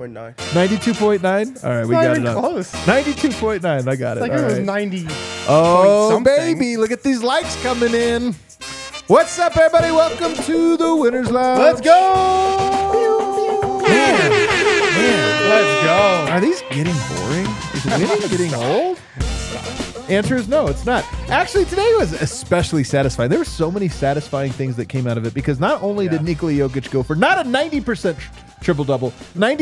92.9. All right, we got it up. Close. 92.9. I got it. Like All it was right. 90. Oh, baby. Look at these likes coming in. What's up, everybody? Welcome to the Winners Lounge. Let's go. Man. Let's go. Are these getting boring? Is winning getting old? Answer is no, it's not. Actually, today was especially satisfying. There were so many satisfying things that came out of it because not only did Nikola Jokic go for not a 90% triple-double,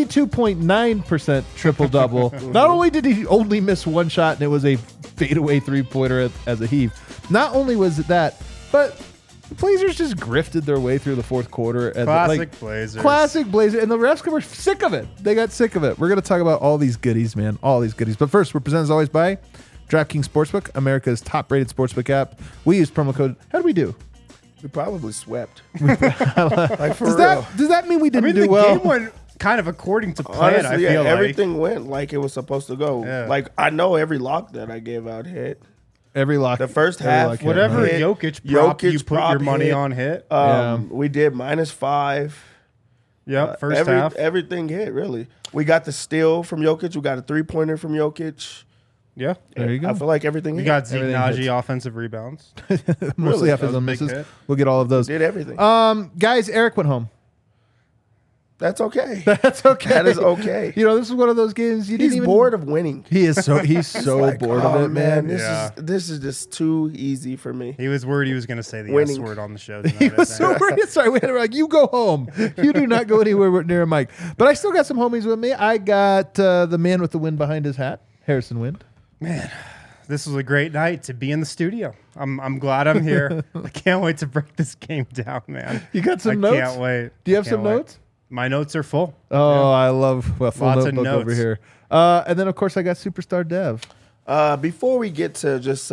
92.9% triple-double. Not only did he only miss one shot and it was a fadeaway three-pointer as a heave, not only was it that, but the Blazers just grifted their way through the fourth quarter. Classic Blazers. Classic Blazers. And the refs were sick of it. They got sick of it. We're going to talk about all these goodies, man. All these goodies. But first, we're presented as always by DraftKings Sportsbook, America's top-rated sportsbook app. We use promo code. How do we do? We probably swept. Like for Does real. that mean we didn't do the well? game went kind of according to plan. Honestly, I feel like everything went like it was supposed to go. Yeah. Like I know every lock that I gave out hit. Every lock. The first every half, lock hit. whatever hit. Jokic prop you Jokic put your prop money hit. on hit. We did -5. Yep, first half. Everything hit really. We got the steal from Jokic. We got a 3-pointer from Jokic. Yeah. There you go. I feel like everything We hit. got Zeke Everything Naji hits. offensive rebounds. Mostly Really? after That was the a big misses. hit. We'll get all of those. Did everything. Guys, Eric went home. That's okay. That's okay. That is okay. You know, this is one of those games you He's didn't even. bored of winning. He's so Like, bored oh, of it, man. This is just too easy for me. He was worried he was going to say the Winning. S word on the show He tonight. I was think. so worried. Sorry, we were like, you go home. You do not go anywhere near a mic. But I still got some homies with me. I got the man with the wind behind his hat, Harrison Wind. Man, this was a great night to be in the studio. I'm glad I'm here. I can't wait to break this game down, man. You got some I notes? can't wait. Do you have Can't some wait. notes? My notes are full. Oh, I love full Lots of notebook over notes. here. And then, of course, I got Superstar Dev. Before we get to just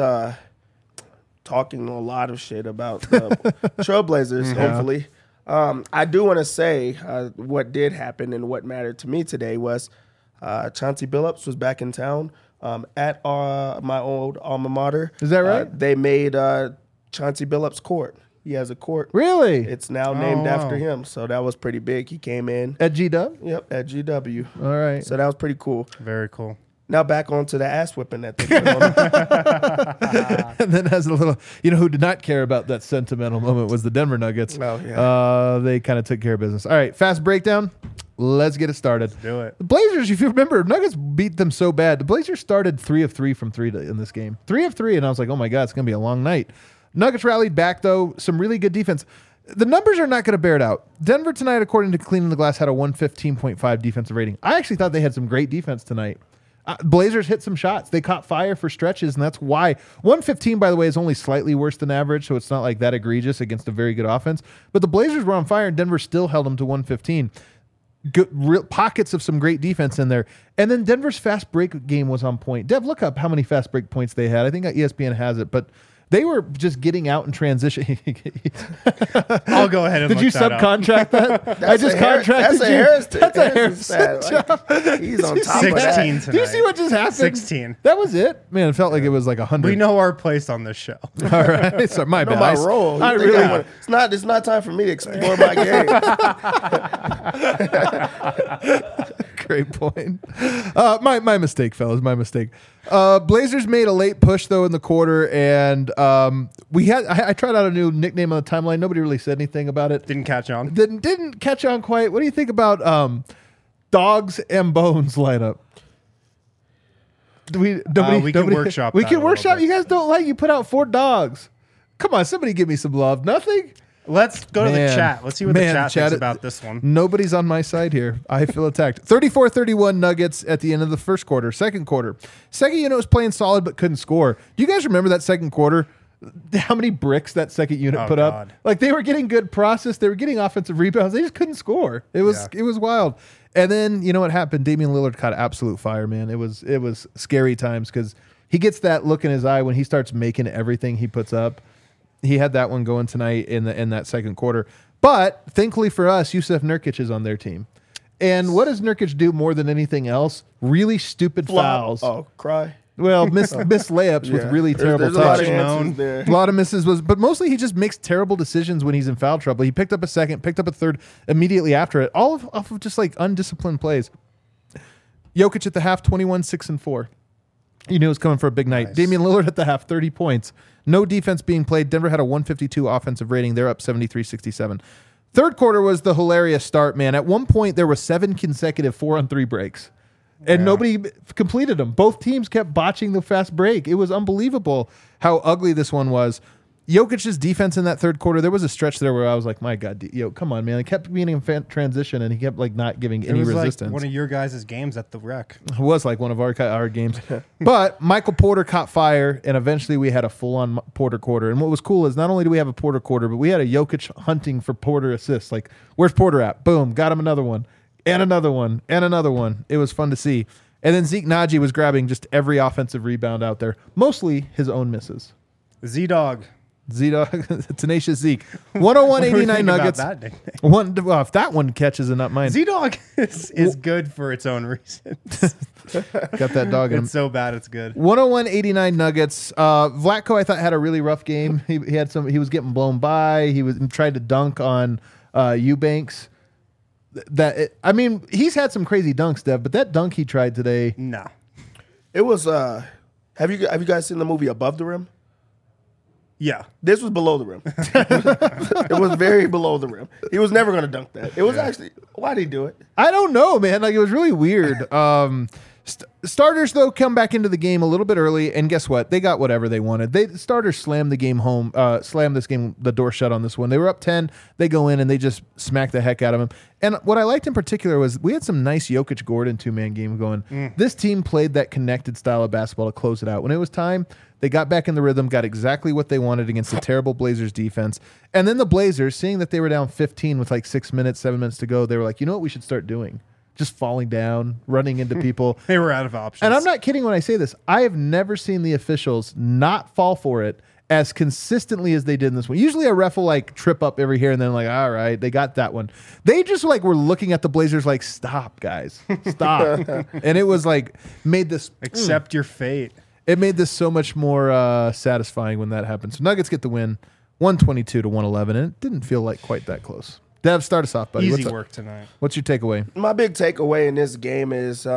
talking a lot of shit about the Trailblazers, hopefully, I do want to say what did happen and what mattered to me today was Chauncey Billups was back in town at my old alma mater. Is that right? They made Chauncey Billups Court. He has a court. Really? It's now named wow. after him. So that was pretty big. He came in. At G-Dub? Yep, at GW. All right. So that was pretty cool. Very cool. Now back onto the ass whipping that they put on. And then as a little, who did not care about that sentimental moment was the Denver Nuggets. Oh, yeah. They kind of took care of business. All right, fast breakdown. Let's get it started. Do it. The Blazers, if you remember, Nuggets beat them so bad. The Blazers started 3 of 3 from 3 in this game. 3 of 3, and I was like, oh my God, it's going to be a long night. Nuggets rallied back, though. Some really good defense. The numbers are not going to bear it out. Denver tonight, according to Cleaning the Glass, had a 115.5 defensive rating. I actually thought they had some great defense tonight. Blazers hit some shots. They caught fire for stretches, and that's why. 115, by the way, is only slightly worse than average, so it's not like that egregious against a very good offense. But the Blazers were on fire, and Denver still held them to 115. Good, real pockets of some great defense in there. And then Denver's fast break game was on point. Dev, look up how many fast break points they had. I think ESPN has it, but they were just getting out and transition. I'll go ahead and Did look you that up. subcontract that? I just contracted That's a you. Harris. That's a Harris stat. Like, he's on top of that. 16 Do you see tonight. what just happened? 16. That was it? Man, it felt like it was like 100. We know our place on this show. All right. Sorry, my I know bad. my role. I You think really wanna- it's not time for me to explore my game. Great point. My mistake, fellas. My mistake. Blazers made a late push though in the quarter, and I tried out a new nickname on the timeline. Nobody really said anything about it. Didn't catch on. Didn't catch on quite. What do you think about Dogs and Bones lineup? We can workshop We that can a little workshop. bit. You guys don't like. You put out 4 dogs. Come on, somebody give me some love. Nothing. Let's go to the Man. chat. Let's see what Man, the chat chat thinks it- about this one. Nobody's on my side here. I feel attacked. 34-31 Nuggets at the end of the first quarter. Second quarter. Second unit was playing solid but couldn't score. Do you guys remember that second quarter? How many bricks that second unit Oh, put up? God. Like they were getting good process. They were getting offensive rebounds. They just couldn't score. It was wild. And then you know what happened? Damian Lillard caught absolute fire, man. It was scary times because he gets that look in his eye when he starts making everything he puts up. He had that one going tonight in that second quarter. But thankfully for us, Yusuf Nurkic is on their team. And what does Nurkic do more than anything else? Really stupid fouls. Oh, cry. Well, miss layups with really terrible There's a lot of touch. answers there. A lot of misses but mostly he just makes terrible decisions when he's in foul trouble. He picked up a second, picked up a third immediately after it, all off of just like undisciplined plays. Jokic at the half, 21, 6 and 4. You knew it was coming for a big night. Nice. Damian Lillard at the half, 30 points. No defense being played. Denver had a 152 offensive rating. They're up 73-67. Third quarter was the hilarious start, man. At one point, there were 7 consecutive 4-on-3 breaks. And nobody completed them. Both teams kept botching the fast break. It was unbelievable how ugly this one was. Jokic's defense in that third quarter, there was a stretch there where I was like, my God, come on, man. It kept being in transition, and he kept like not giving any resistance. Like one of your guys' games at the Rec. It was like one of our games. But Michael Porter caught fire, and eventually we had a full-on Porter quarter. And what was cool is not only do we have a Porter quarter, but we had a Jokic hunting for Porter assists. Like, where's Porter at? Boom, got him another one, and another one, and another one. It was fun to see. And then Zeke Naji was grabbing just every offensive rebound out there, mostly his own misses. Z-Dog. Z-Dog, tenacious Zeke. 101-89 Nuggets. About that nickname? Well, if that one catches and not mine. Z-Dog is good for its own reasons. Got that dog in him. It's so bad it's good. 101-89 Nuggets. Vlatko, I thought, had a really rough game. He was getting blown by. He tried to dunk on Eubanks. He's had some crazy dunks, Dev, but that dunk he tried today. No. It was. Have you guys seen the movie Above the Rim? Yeah. This was below the rim. It was very below the rim. He was never going to dunk that. It was actually. Why did he do it? I don't know, man. Like, it was really weird. Starters, though, come back into the game a little bit early, and guess what? They got whatever they wanted. The starters slammed the game home, slammed this game, the door shut on this one. They were up 10. They go in, and they just smack the heck out of him. And what I liked in particular was we had some nice Jokic-Gordon two-man game going. This team played that connected style of basketball to close it out. When it was time, they got back in the rhythm, got exactly what they wanted against the terrible Blazers defense. And then the Blazers, seeing that they were down 15 with like 7 minutes to go, they were like, you know what we should start doing? Just falling down, running into people. They were out of options. And I'm not kidding when I say this. I have never seen the officials not fall for it as consistently as they did in this one. Usually a ref will like trip up every here and then like, all right, they got that one. They just like were looking at the Blazers like, stop, guys. Stop. And it was like made this Accept your fate. It made this so much more satisfying when that happened. So Nuggets get the win, 122-111, and it didn't feel like quite that close. Dev, start us off, buddy. Easy work tonight. What's your takeaway? My big takeaway in this game is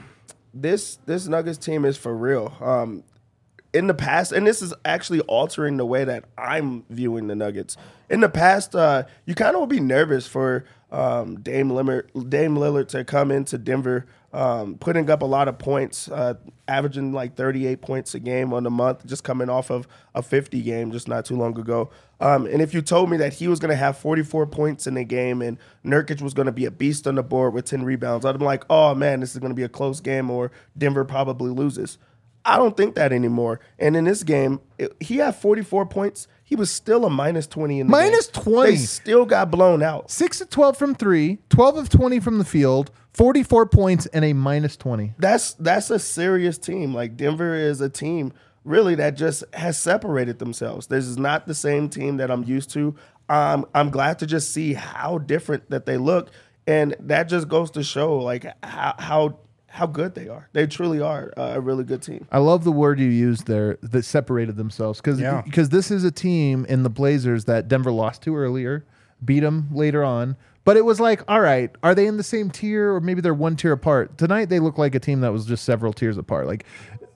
this Nuggets team is for real. In the past, and this is actually altering the way that I'm viewing the Nuggets. In the past, you kind of would be nervous for Dame Lillard to come into Denver, putting up a lot of points, averaging like 38 points a game on the month, just coming off of a 50 game just not too long ago. And if you told me that he was going to have 44 points in a game and Nurkic was going to be a beast on the board with 10 rebounds, I'd be like, oh, man, this is going to be a close game or Denver probably loses. I don't think that anymore. And in this game, he had 44 points. He was still a minus 20 in the game. Minus 20. They still got blown out. 6 of 12 from 3, 12 of 20 from the field, 44 points, and a minus 20. That's a serious team. Like, Denver is a team, really, that just has separated themselves. This is not the same team that I'm used to. I'm glad to just see how different that they look. And that just goes to show, like, how good they are. They truly are a really good team. I love the word you used there, that separated themselves. Because this is a team in the Blazers that Denver lost to earlier, beat them later on. But it was like, all right, are they in the same tier or maybe they're one tier apart? Tonight they look like a team that was just several tiers apart. Like,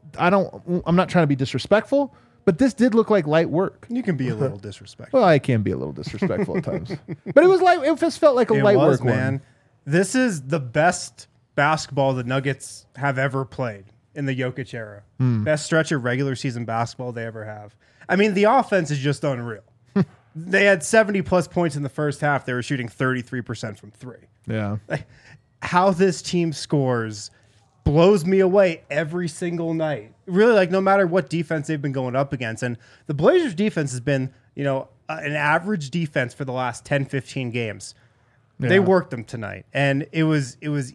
I'm not trying to be disrespectful, but this did look like light work. You can be a little disrespectful. Well, I can be a little disrespectful at times. But it was like, it just felt like a light work man. one. This is the best basketball the Nuggets have ever played in the Jokic era. Best stretch of regular season basketball they ever have. I mean, the offense is just unreal. They had 70-plus points in the first half. They were shooting 33% from 3. Yeah. Like, how this team scores blows me away every single night. Really, like, no matter what defense they've been going up against. And the Blazers defense has been, an average defense for the last 10, 15 games. Yeah. They worked them tonight, and it was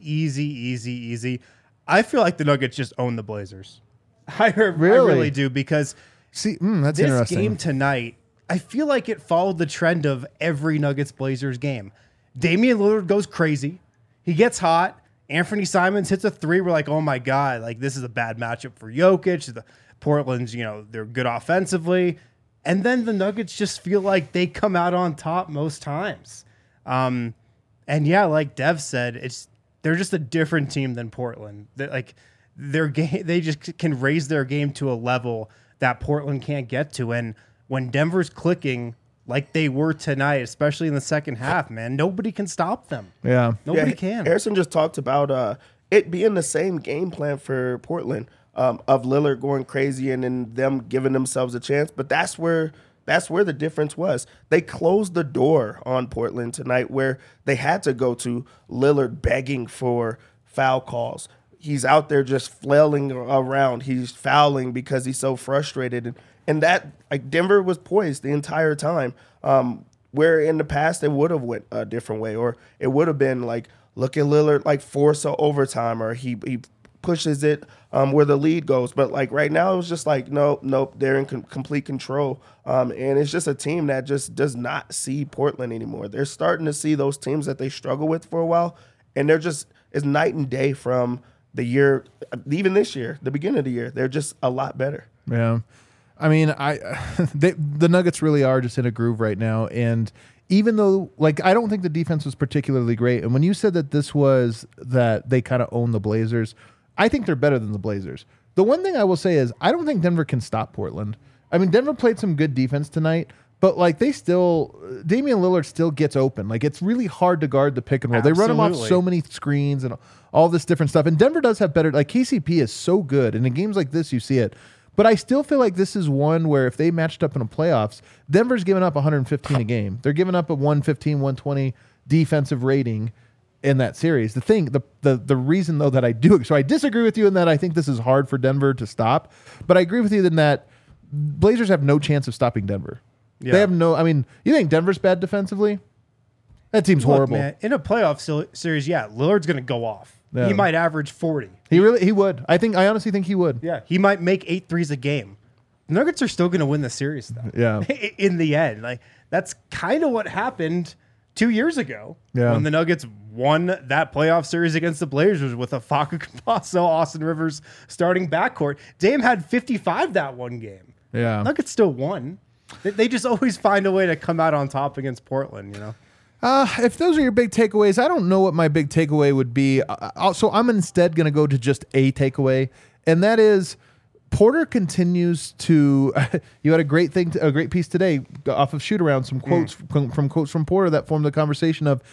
easy. I feel like the Nuggets just own the Blazers. I really do, because that's this interesting. game tonight, I feel like it followed the trend of every Nuggets-Blazers game. Damian Lillard goes crazy. He gets hot. Anthony Simons hits a 3. We're like, oh, my God, like, this is a bad matchup for Jokic. The Portland's, they're good offensively. And then the Nuggets just feel like they come out on top most times. And yeah, like Dev said, they're just a different team than Portland. Their game, they just can raise their game to a level that Portland can't get to. And when Denver's clicking like they were tonight, especially in the second half, man, nobody can stop them. Yeah. Nobody can. Harrison just talked about it being the same game plan for Portland, of Lillard going crazy and then them giving themselves a chance. But that's where the difference was. They closed the door on Portland tonight, where they had to go to Lillard begging for foul calls. He's out there just flailing around. He's fouling because he's so frustrated. And that, like, Denver was poised the entire time, where in the past it would have went a different way, or it would have been like, look at Lillard, like, force a overtime, or he pushes it where the lead goes. But, like, right now it was just like, nope, they're in complete control. And it's just a team that just does not see Portland anymore. They're starting to see those teams that they struggle with for a while, and it's night and day from the year, even this year, the beginning of the year. They're just a lot better. Yeah. I mean, the Nuggets really are just in a groove right now. And even though, like, I don't think the defense was particularly great. And when you said that that they kind of own the Blazers, I think they're better than the Blazers. The one thing I will say is I don't think Denver can stop Portland. I mean, Denver played some good defense tonight, but, like, Damian Lillard still gets open. Like, it's really hard to guard the pick and roll. They run him off so many screens and all this different stuff. And Denver does have better, like, KCP is so good. And in games like this, you see it. But I still feel like this is one where if they matched up in the playoffs, Denver's giving up 115 a game. They're giving up a 115, 120 defensive rating in that series. The reason, though, that I do, so I disagree with you in that I think this is hard for Denver to stop. But I agree with you in that Blazers have no chance of stopping Denver. Yeah. They have no, I mean, you think Denver's bad defensively? That team's horrible. Man, in a playoff series, yeah, Lillard's going to go off. Yeah. He might average 40. He would. I honestly think he would. Yeah, he might make 8 threes a game. The Nuggets are still going to win the series, though. Yeah. In the end, like, that's kind of what happened 2 years ago when the Nuggets won that playoff series against the Blazers with a Facu Campazzo, Austin Rivers starting backcourt. Dame had 55 that one game. Yeah. Nuggets still won. They just always find a way to come out on top against Portland, you know? If those are your big takeaways, I don't know what my big takeaway would be. So I'm instead going to go to just a takeaway, and that is Porter continues to. You had a great piece today off of Shoot Around, some quotes from quotes from Porter that formed the conversation of.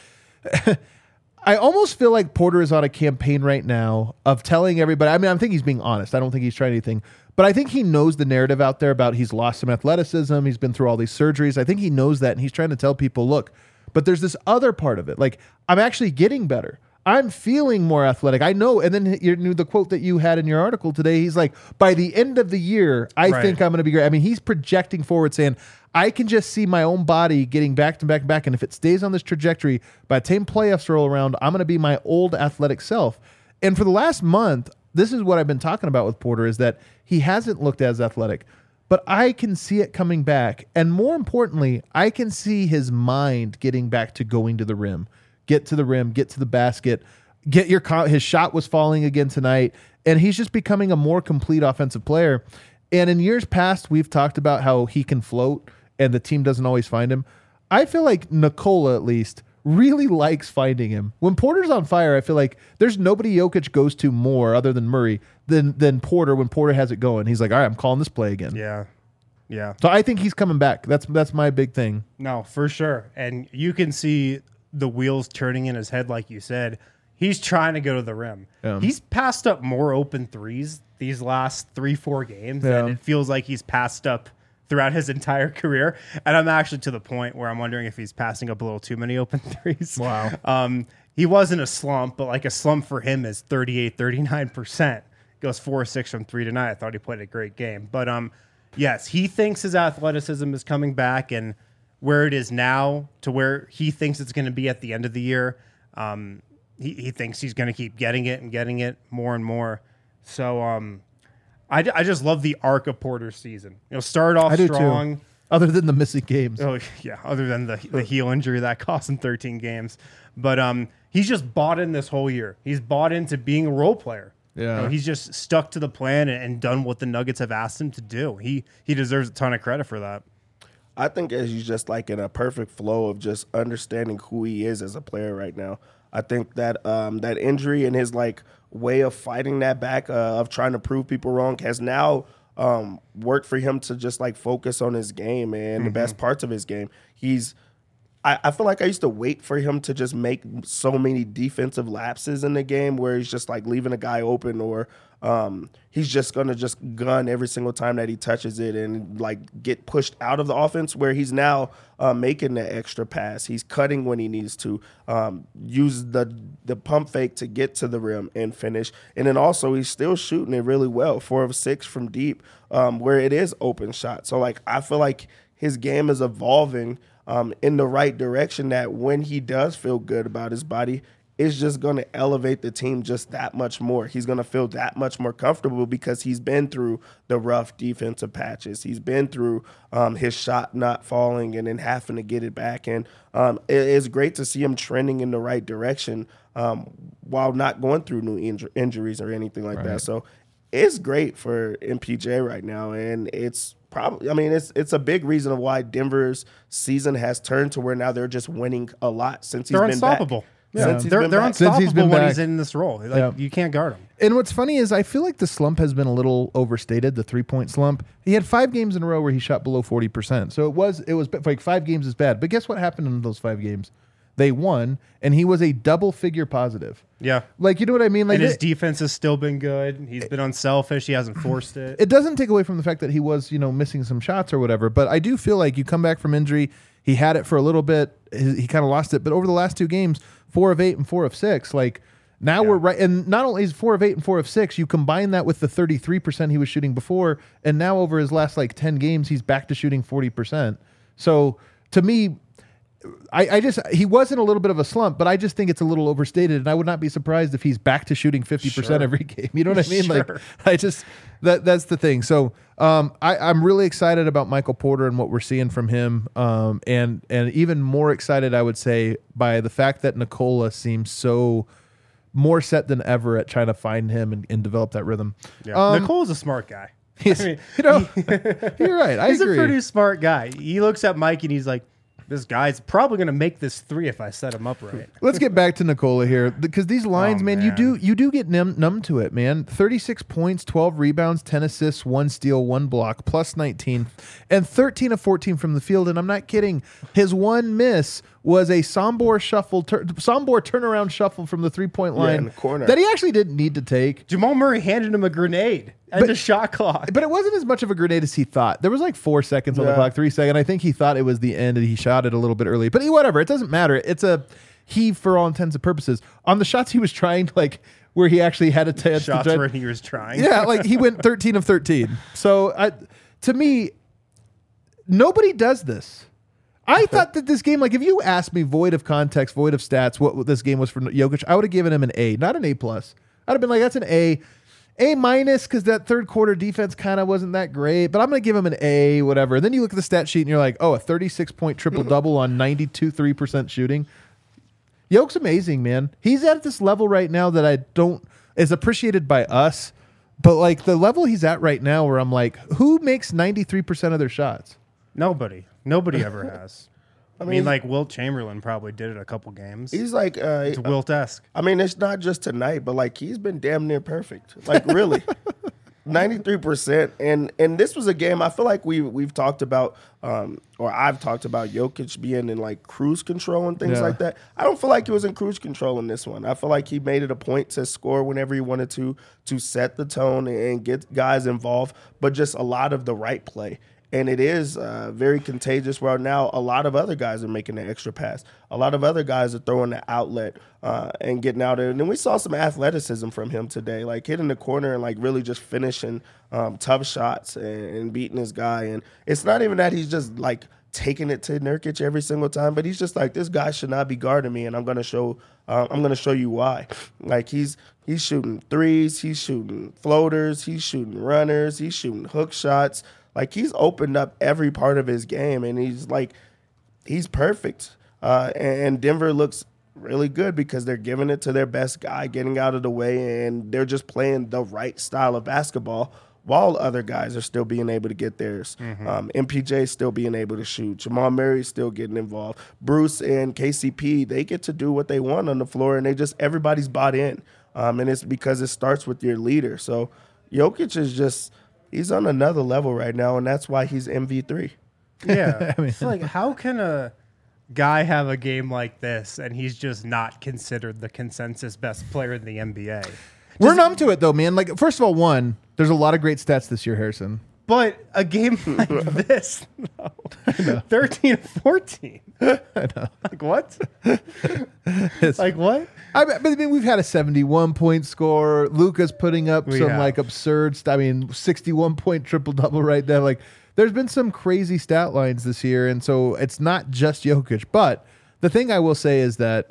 I almost feel like Porter is on a campaign right now of telling everybody. I mean, I think he's being honest. I don't think he's trying anything. But I think he knows the narrative out there about he's lost some athleticism. He's been through all these surgeries. I think he knows that, and he's trying to tell people, look, but there's this other part of it. Like, I'm actually getting better. I'm feeling more athletic. I know. And then you knew the quote that you had in your article today. He's like, by the end of the year, I think I'm going to be great. I mean, he's projecting forward saying, I can just see my own body getting back to back and back. And if it stays on this trajectory, by the time playoffs roll around, I'm going to be my old athletic self. And for the last month, this is what I've been talking about with Porter, is that he hasn't looked as athletic, but I can see it coming back. And more importantly, I can see his mind getting back to going to the rim, get to the rim, get to the basket, his shot was falling again tonight. And he's just becoming a more complete offensive player. And in years past, we've talked about how he can float and the team doesn't always find him. I feel like Nikola, at least, really likes finding him. When Porter's on fire, I feel like there's nobody Jokic goes to more other than Murray than Porter when Porter has it going. He's like, all right, I'm calling this play again. Yeah. Yeah. So I think he's coming back. That's my big thing. No, for sure. And you can see the wheels turning in his head, like you said. He's trying to go to the rim. Yeah. He's passed up more open threes these last 3-4 games than it feels like he's passed up throughout his entire career. And I'm actually to the point where I'm wondering if he's passing up a little too many open threes. Wow. He was in a slump, but like a slump for him is 38-39%. Goes 4-6 from 3 tonight. I thought he played a great game. But yes, he thinks his athleticism is coming back, and where it is now to where he thinks it's going to be at the end of the year, he thinks he's going to keep getting it more and more. So I just love the arc of Porter's season. Start off strong. Too. Other than the missing games. Oh, yeah. Other than the heel injury that cost him 13 games. But he's just bought in this whole year. He's bought into being a role player. Yeah. He's just stuck to the plan and done what the Nuggets have asked him to do. He deserves a ton of credit for that. I think he's just like in a perfect flow of just understanding who he is as a player right now. I think that that injury and his like way of fighting that back, of trying to prove people wrong, has now worked for him to just like focus on his game and the best parts of his game. I feel like I used to wait for him to just make so many defensive lapses in the game where he's just like leaving a guy open, or he's just going to just gun every single time that he touches it and like get pushed out of the offense, where he's now making the extra pass. He's cutting when he needs to, use the pump fake to get to the rim and finish. And then also he's still shooting it really well, 4 of 6 from deep, where it is open shot. So like I feel like his game is evolving in the right direction, that when he does feel good about his body, it's just going to elevate the team just that much more. He's going to feel that much more comfortable because he's been through the rough defensive patches. He's been through his shot not falling and then having to get it back. And it's great to see him trending in the right direction while not going through new injuries or anything like that. So it's great for MPJ right now, and it's probably, I mean, it's a big reason of why Denver's season has turned to where now they're just winning a lot since he's been unstoppable. back. Yeah. Since he's They're been back. unstoppable Since he's been when back. he's in this role. Like you can't guard him. And what's funny is I feel like the slump has been a little overstated, the 3-point slump. He had 5 games in a row where he shot below 40%. So it was like 5 games is bad. But guess what happened in those 5 games? They won, and he was a double-figure positive. Yeah. Like, you know what I mean? Like, And his defense has still been good. He's been unselfish. He hasn't forced it. it doesn't take away from the fact that he was, missing some shots or whatever. But I do feel like you come back from injury, he had it for a little bit, he kind of lost it. But over the last 2 games, 4 of 8 and 4 of 6, like now we're right. And not only is 4 of 8 and 4 of 6, you combine that with the 33% he was shooting before, and now over his last like 10 games, he's back to shooting 40%. So to me, he was in a little bit of a slump, but I just think it's a little overstated, and I would not be surprised if he's back to shooting 50% every game. You know what I mean? Sure. Like, that's the thing. So I'm really excited about Michael Porter and what we're seeing from him, and even more excited, I would say, by the fact that Nikola seems so more set than ever at trying to find him and develop that rhythm. Yeah. Nicole's a smart guy. You're right. I He's agree. a pretty smart guy. He looks at Mike and he's like, this guy's probably going to make this 3 if I set him up right. Let's get back to Nikola here, because these lines, man, you do get numb to it, man. 36 points, 12 rebounds, 10 assists, 1 steal, 1 block, plus 19, and 13 of 14 from the field. And I'm not kidding. His one miss was a Sombor turnaround shuffle from the 3-point line in the corner that he actually didn't need to take. Jamal Murray handed him a grenade and the shot clock. But it wasn't as much of a grenade as he thought. There was like 4 seconds on the clock, 3 seconds. I think he thought it was the end and he shot it a little bit early. But whatever, it doesn't matter. It's a he for all intents and purposes. On the shots he was trying, like where he actually had a chance Shots to where he was trying. Yeah, like he went 13 of 13. So to me, nobody does this. I thought that this game, like if you asked me void of context, void of stats, what this game was for Jokic, I would have given him an A, not an A+. I'd have been like, that's an A minus, because that third quarter defense kind of wasn't that great, but I'm going to give him an A, whatever. And then you look at the stat sheet and you're like, oh, a 36-point triple-double on 92.3% shooting. Jokic's amazing, man. He's at this level right now that is appreciated by us, but like the level he's at right now where I'm like, who makes 93% of their shots? Nobody ever has. I mean, like Wilt Chamberlain probably did it a couple games. He's like It's Wilt-esque. I mean, it's not just tonight, but like he's been damn near perfect. Like really, 93%. And this was a game I feel like we've talked about, or I've talked about Jokic being in like cruise control and things like that. I don't feel like he was in cruise control in this one. I feel like he made it a point to score whenever he wanted to set the tone and get guys involved, but just a lot of the right play. And it is very contagious where now a lot of other guys are making the extra pass. A lot of other guys are throwing the outlet and getting out there. And then we saw some athleticism from him today, like hitting the corner and like really just finishing tough shots and beating his guy. And it's not even that he's just like taking it to Nurkic every single time, but he's just like, this guy should not be guarding me, and I'm gonna show you why. Like he's shooting threes, he's shooting floaters, he's shooting runners, he's shooting hook shots. Like he's opened up every part of his game, and he's perfect. And Denver looks really good because they're giving it to their best guy, getting out of the way, and they're just playing the right style of basketball while other guys are still being able to get theirs. MPJ still being able to shoot. Jamal Murray still getting involved. Bruce and KCP, they get to do what they want on the floor, and everybody's bought in. And it's because it starts with your leader. So Jokic is he's on another level right now, and that's why he's MV3. Yeah. It's like, how can a guy have a game like this and he's just not considered the consensus best player in the NBA? We're numb to it, though, man. Like, first of all, there's a lot of great stats this year, Harrison. But a game like this, no. 13-14. I know. Like, what? Like, what? I mean, we've had a 71-point score. Luka's putting up like absurd 61-point triple-double right there. Like, there's been some crazy stat lines this year, and so it's not just Jokic. But the thing I will say is that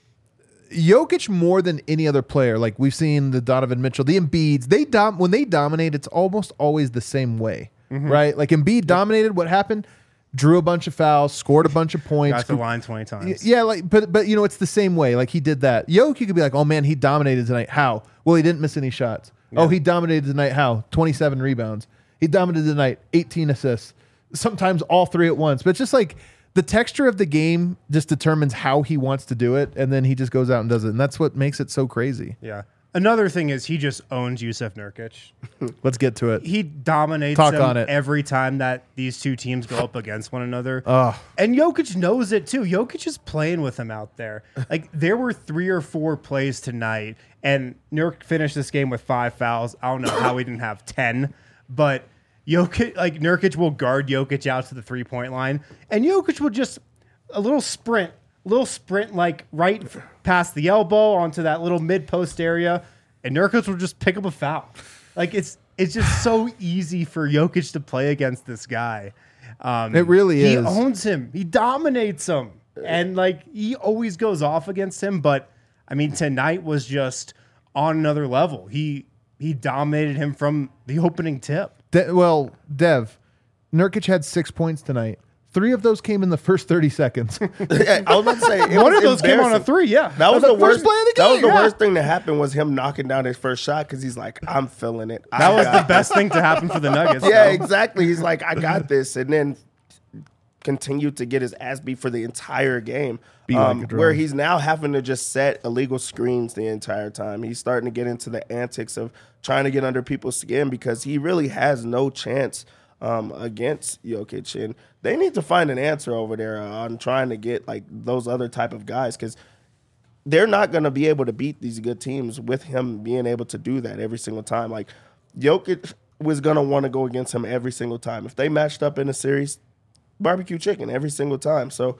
Jokic, more than any other player, like we've seen the Donovan Mitchell, the Embiids, when they dominate, it's almost always the same way, right? Like Embiid dominated. What happened? Drew a bunch of fouls, scored a bunch of points. Got the line 20 times. Yeah, but it's the same way. Like he did that. Jokic, you could be like, oh man, he dominated tonight. How? Well, he didn't miss any shots. Yeah. Oh, he dominated tonight. How? 27 rebounds. He dominated tonight. 18 assists. Sometimes all three at once. But it's just like the texture of the game just determines how he wants to do it, and then he just goes out and does it, and that's what makes it so crazy. Yeah. Another thing is he just owns Jusuf Nurkic. Let's get to it. He dominates him every time that these two teams go up against one another. And Jokic knows it too. Jokic is playing with him out there. Like there were 3 or 4 plays tonight, and Nurk finished this game with 5 fouls. I don't know how he didn't have 10, but Nurkic will guard Jokic out to the 3-point line, and Jokic will just a little sprint like right past the elbow onto that little mid-post area, and Nurkic will just pick up a foul. Like it's just so easy for Jokic to play against this guy. It really is. He owns him. He dominates him, and like he always goes off against him. But I mean, tonight was just on another level. He dominated him from the opening tip. Dev, Nurkic had 6 points tonight. 3 of those came in the first 30 seconds. I was about to say one of those came on a 3. Yeah, that was the worst play of the game. That was the worst thing that happened was him knocking down his first shot because he's like, I'm feeling it. That was the best thing to happen for the Nuggets. Yeah, exactly. He's like, I got this, and then continued to get his ass beat for the entire game. Where he's now having to just set illegal screens the entire time. He's starting to get into the antics of trying to get under people's skin because he really has no chance against Jokic, and they need to find an answer over there on trying to get like those other type of guys because they're not going to be able to beat these good teams with him being able to do that every single time. Like Jokic was going to want to go against him every single time. If they matched up in a series, barbecue chicken every single time. So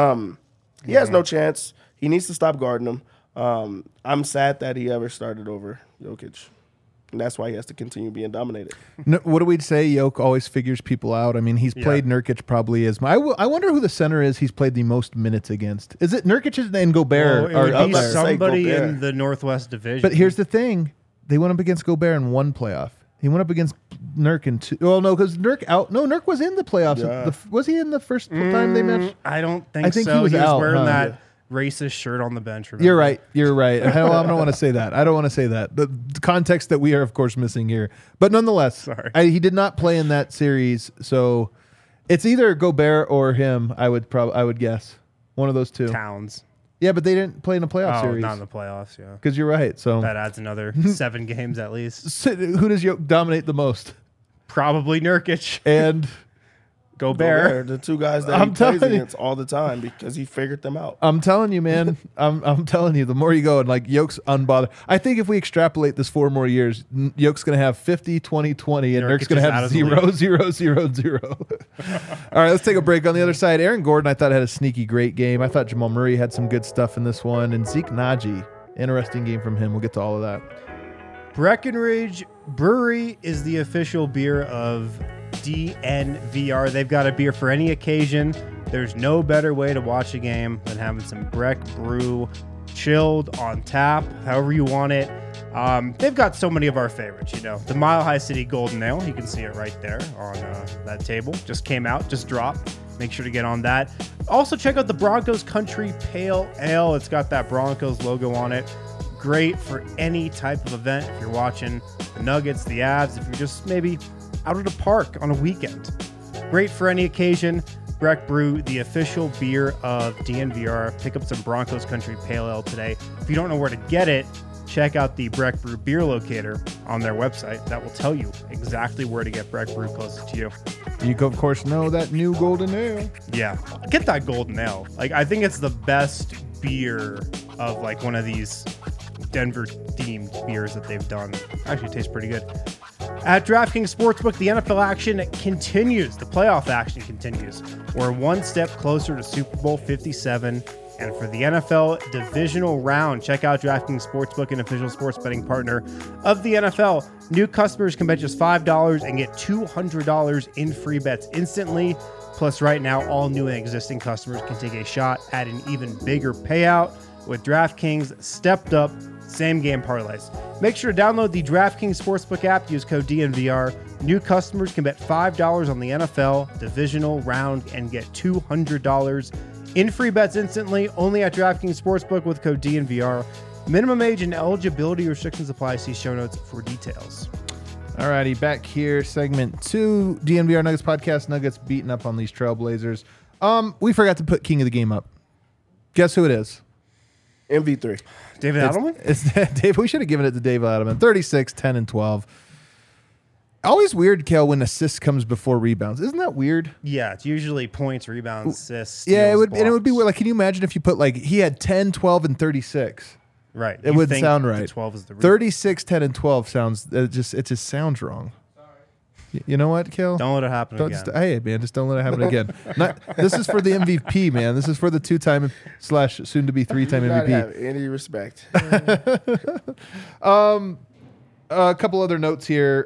he has no chance. He needs to stop guarding him. I'm sad that he ever started over Jokic. And that's why he has to continue being dominated. What do we say? Jokic always figures people out. I mean, he's played Nurkic probably as I wonder who the center is he's played the most minutes against. Is it Nurkic and Gobert? Well, it would be somebody in the Northwest Division. But here's the thing. They went up against Gobert in one playoff. He went up against Nurk in 2. Well, no, because Nurk out. No, Nurk was in the playoffs. Yeah. Was he in the first time they matched? I don't think so. I think he was out, wearing that racist shirt on the bench. Remember? You're right. I don't want to say that. I don't want to say that. The context that we are, of course, missing here. But nonetheless, he did not play in that series. So it's either Gobert or him, I would guess. One of those two. Towns. Yeah, but they didn't play in a playoff series. Not in the playoffs, yeah. Because you're right. So that adds another 7 games at least. So who does Jokic dominate the most? Probably Nurkic. And Gobert. The two guys that he plays against all the time because he figured them out. I'm telling you, man. I'm telling you, the more you go, and like Jokic's unbothered. I think if we extrapolate this 4 more years, Jokic's going to have 50, 20, 20, and Nurkic's going to have 0, 0, 0, 0. All right, let's take a break. On the other side, Aaron Gordon, I thought, had a sneaky great game. I thought Jamal Murray had some good stuff in this one. And Zeke Naji, interesting game from him. We'll get to all of that. Breckenridge Brewery is the official beer of DNVR. They've got a beer for any occasion. There's no better way to watch a game than having some Breck Brew chilled on tap, however you want it. They've got so many of our favorites, the Mile High City Golden Ale. You can see it right there on that table. Just came out, just dropped. Make sure to get on that. Also, check out the Broncos Country Pale Ale. It's got that Broncos logo on it. great for any type of event. If you're watching the Nuggets, the Avs, if you're just maybe out at a park on a weekend. Great for any occasion. Breck Brew, the official beer of DNVR. Pick up some Broncos Country Pale Ale today. If you don't know where to get it, check out the Breck Brew beer locator on their website. That will tell you exactly where to get Breck Brew closest to you. You, of course, know that new Golden Ale. Yeah, get that Golden Ale. Like, I think it's the best beer of like one of these Denver themed beers that they've done. Actually, it tastes pretty good. At DraftKings Sportsbook, the NFL action continues. The playoff action continues. We're one step closer to Super Bowl 57. And for the NFL divisional round, check out DraftKings Sportsbook, an official sports betting partner of the NFL. New customers can bet just $5 and get $200 in free bets instantly. Plus, right now, all new and existing customers can take a shot at an even bigger payout with DraftKings stepped up same game parlays. Make sure to download the DraftKings Sportsbook app. Use code DNVR. New customers can bet $5 on the NFL divisional round and get $200 in free bets instantly. Only at DraftKings Sportsbook with code DNVR. Minimum age and eligibility restrictions apply. See show notes for details. Alrighty, back here, segment 2, DNVR Nuggets podcast. Nuggets beating up on these Trailblazers. We forgot to put King of the Game up. Guess who it is? MV3. David Adelman? It's Dave. We should have given it to Dave Adelman. 36, 10, and 12. Always weird, Kel, when assist comes before rebounds. Isn't that weird? Yeah, it's usually points, rebounds, assists. Yeah, steals, it would, and it would be blocks. weird. Like, can you imagine if you put like he had 10, 12, and 36? Right. It You wouldn't think sound the right. 12 is the 36, 10, and 12 sounds it just sounds wrong. You know what, Kel? Don't let it happen Don't again. hey man, just don't let it happen again. This is for the MVP, man. This is for the 2-time / soon to be 3-time Not MVP. have any respect. A couple other notes here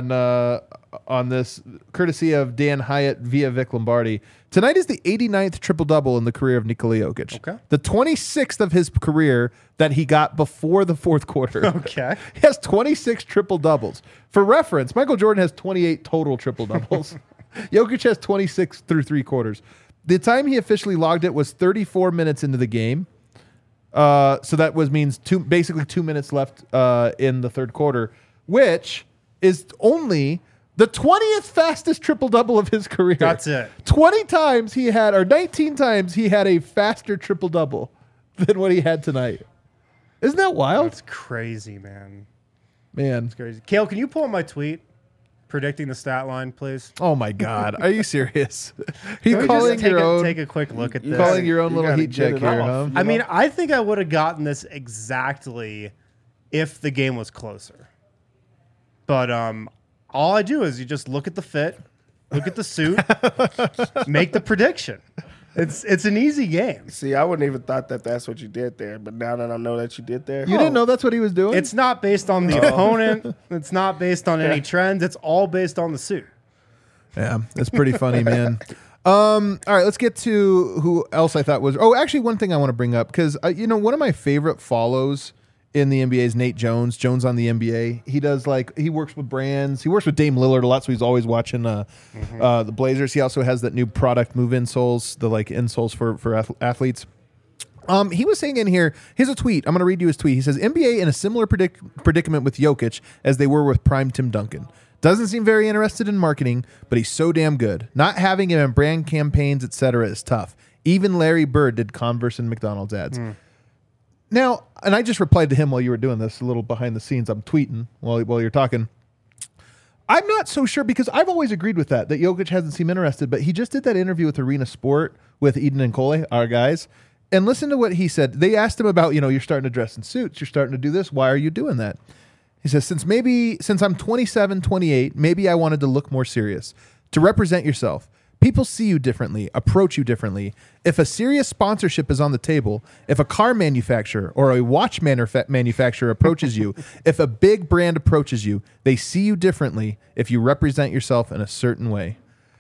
on this, courtesy of Dan Hyatt via Vic Lombardi. Tonight is the 89th triple-double in the career of Nikola Jokic. Okay. The 26th of his career that he got before the fourth quarter. Okay. He has 26 triple-doubles. For reference, Michael Jordan has 28 total triple-doubles. Jokic has 26 through 3 quarters. The time he officially logged it was 34 minutes into the game. So that means basically 2 minutes left in the third quarter, which is only the 20th fastest triple-double of his career. That's it. 19 times he had a faster triple-double than what he had tonight. Isn't that wild? That's crazy, man. Man. It's crazy. Kale, can you pull up my tweet predicting the stat line, please? Oh my God. Are you serious? Are you Can we calling just your own? take a quick look at You this? Calling your own You little gotta heat get check it here, off. huh? I mean, I think I would have gotten this exactly if the game was closer. But all I do is you just look at the fit, look at the suit, make the prediction. It's an easy game. See, I wouldn't even thought that that's what you did there, but now that I know that you did there, You didn't know that's what he was doing? It's not based on the opponent. It's not based on any trends. It's all based on the suit. Yeah, it's pretty funny, man. All right, let's get to who else I thought was. Oh, actually, one thing I want to bring up because one of my favorite follows in the NBA is Nate Jones. Jones on the NBA. He does he works with brands. He works with Dame Lillard a lot, so he's always watching the Blazers. He also has that new product, Move Insoles, the insoles for athletes. He was saying in here, here's a tweet. I'm going to read you his tweet. He says, NBA in a similar predicament with Jokic as they were with prime Tim Duncan. Doesn't seem very interested in marketing, but he's so damn good. Not having him in brand campaigns, etc., is tough. Even Larry Bird did Converse and McDonald's ads. Now, and I just replied to him while you were doing this, a little behind the scenes. I'm tweeting while you're talking. I'm not so sure because I've always agreed with that Jokic hasn't seemed interested, but he just did that interview with Arena Sport with Eden and Cole, our guys. And listen to what he said. They asked him about, you're starting to dress in suits. You're starting to do this. Why are you doing that? He says, since I'm 27, 28, maybe I wanted to look more serious, to represent yourself. People see you differently, approach you differently. If a serious sponsorship is on the table, if a car manufacturer or a watch manufacturer approaches you, if a big brand approaches you, they see you differently if you represent yourself in a certain way.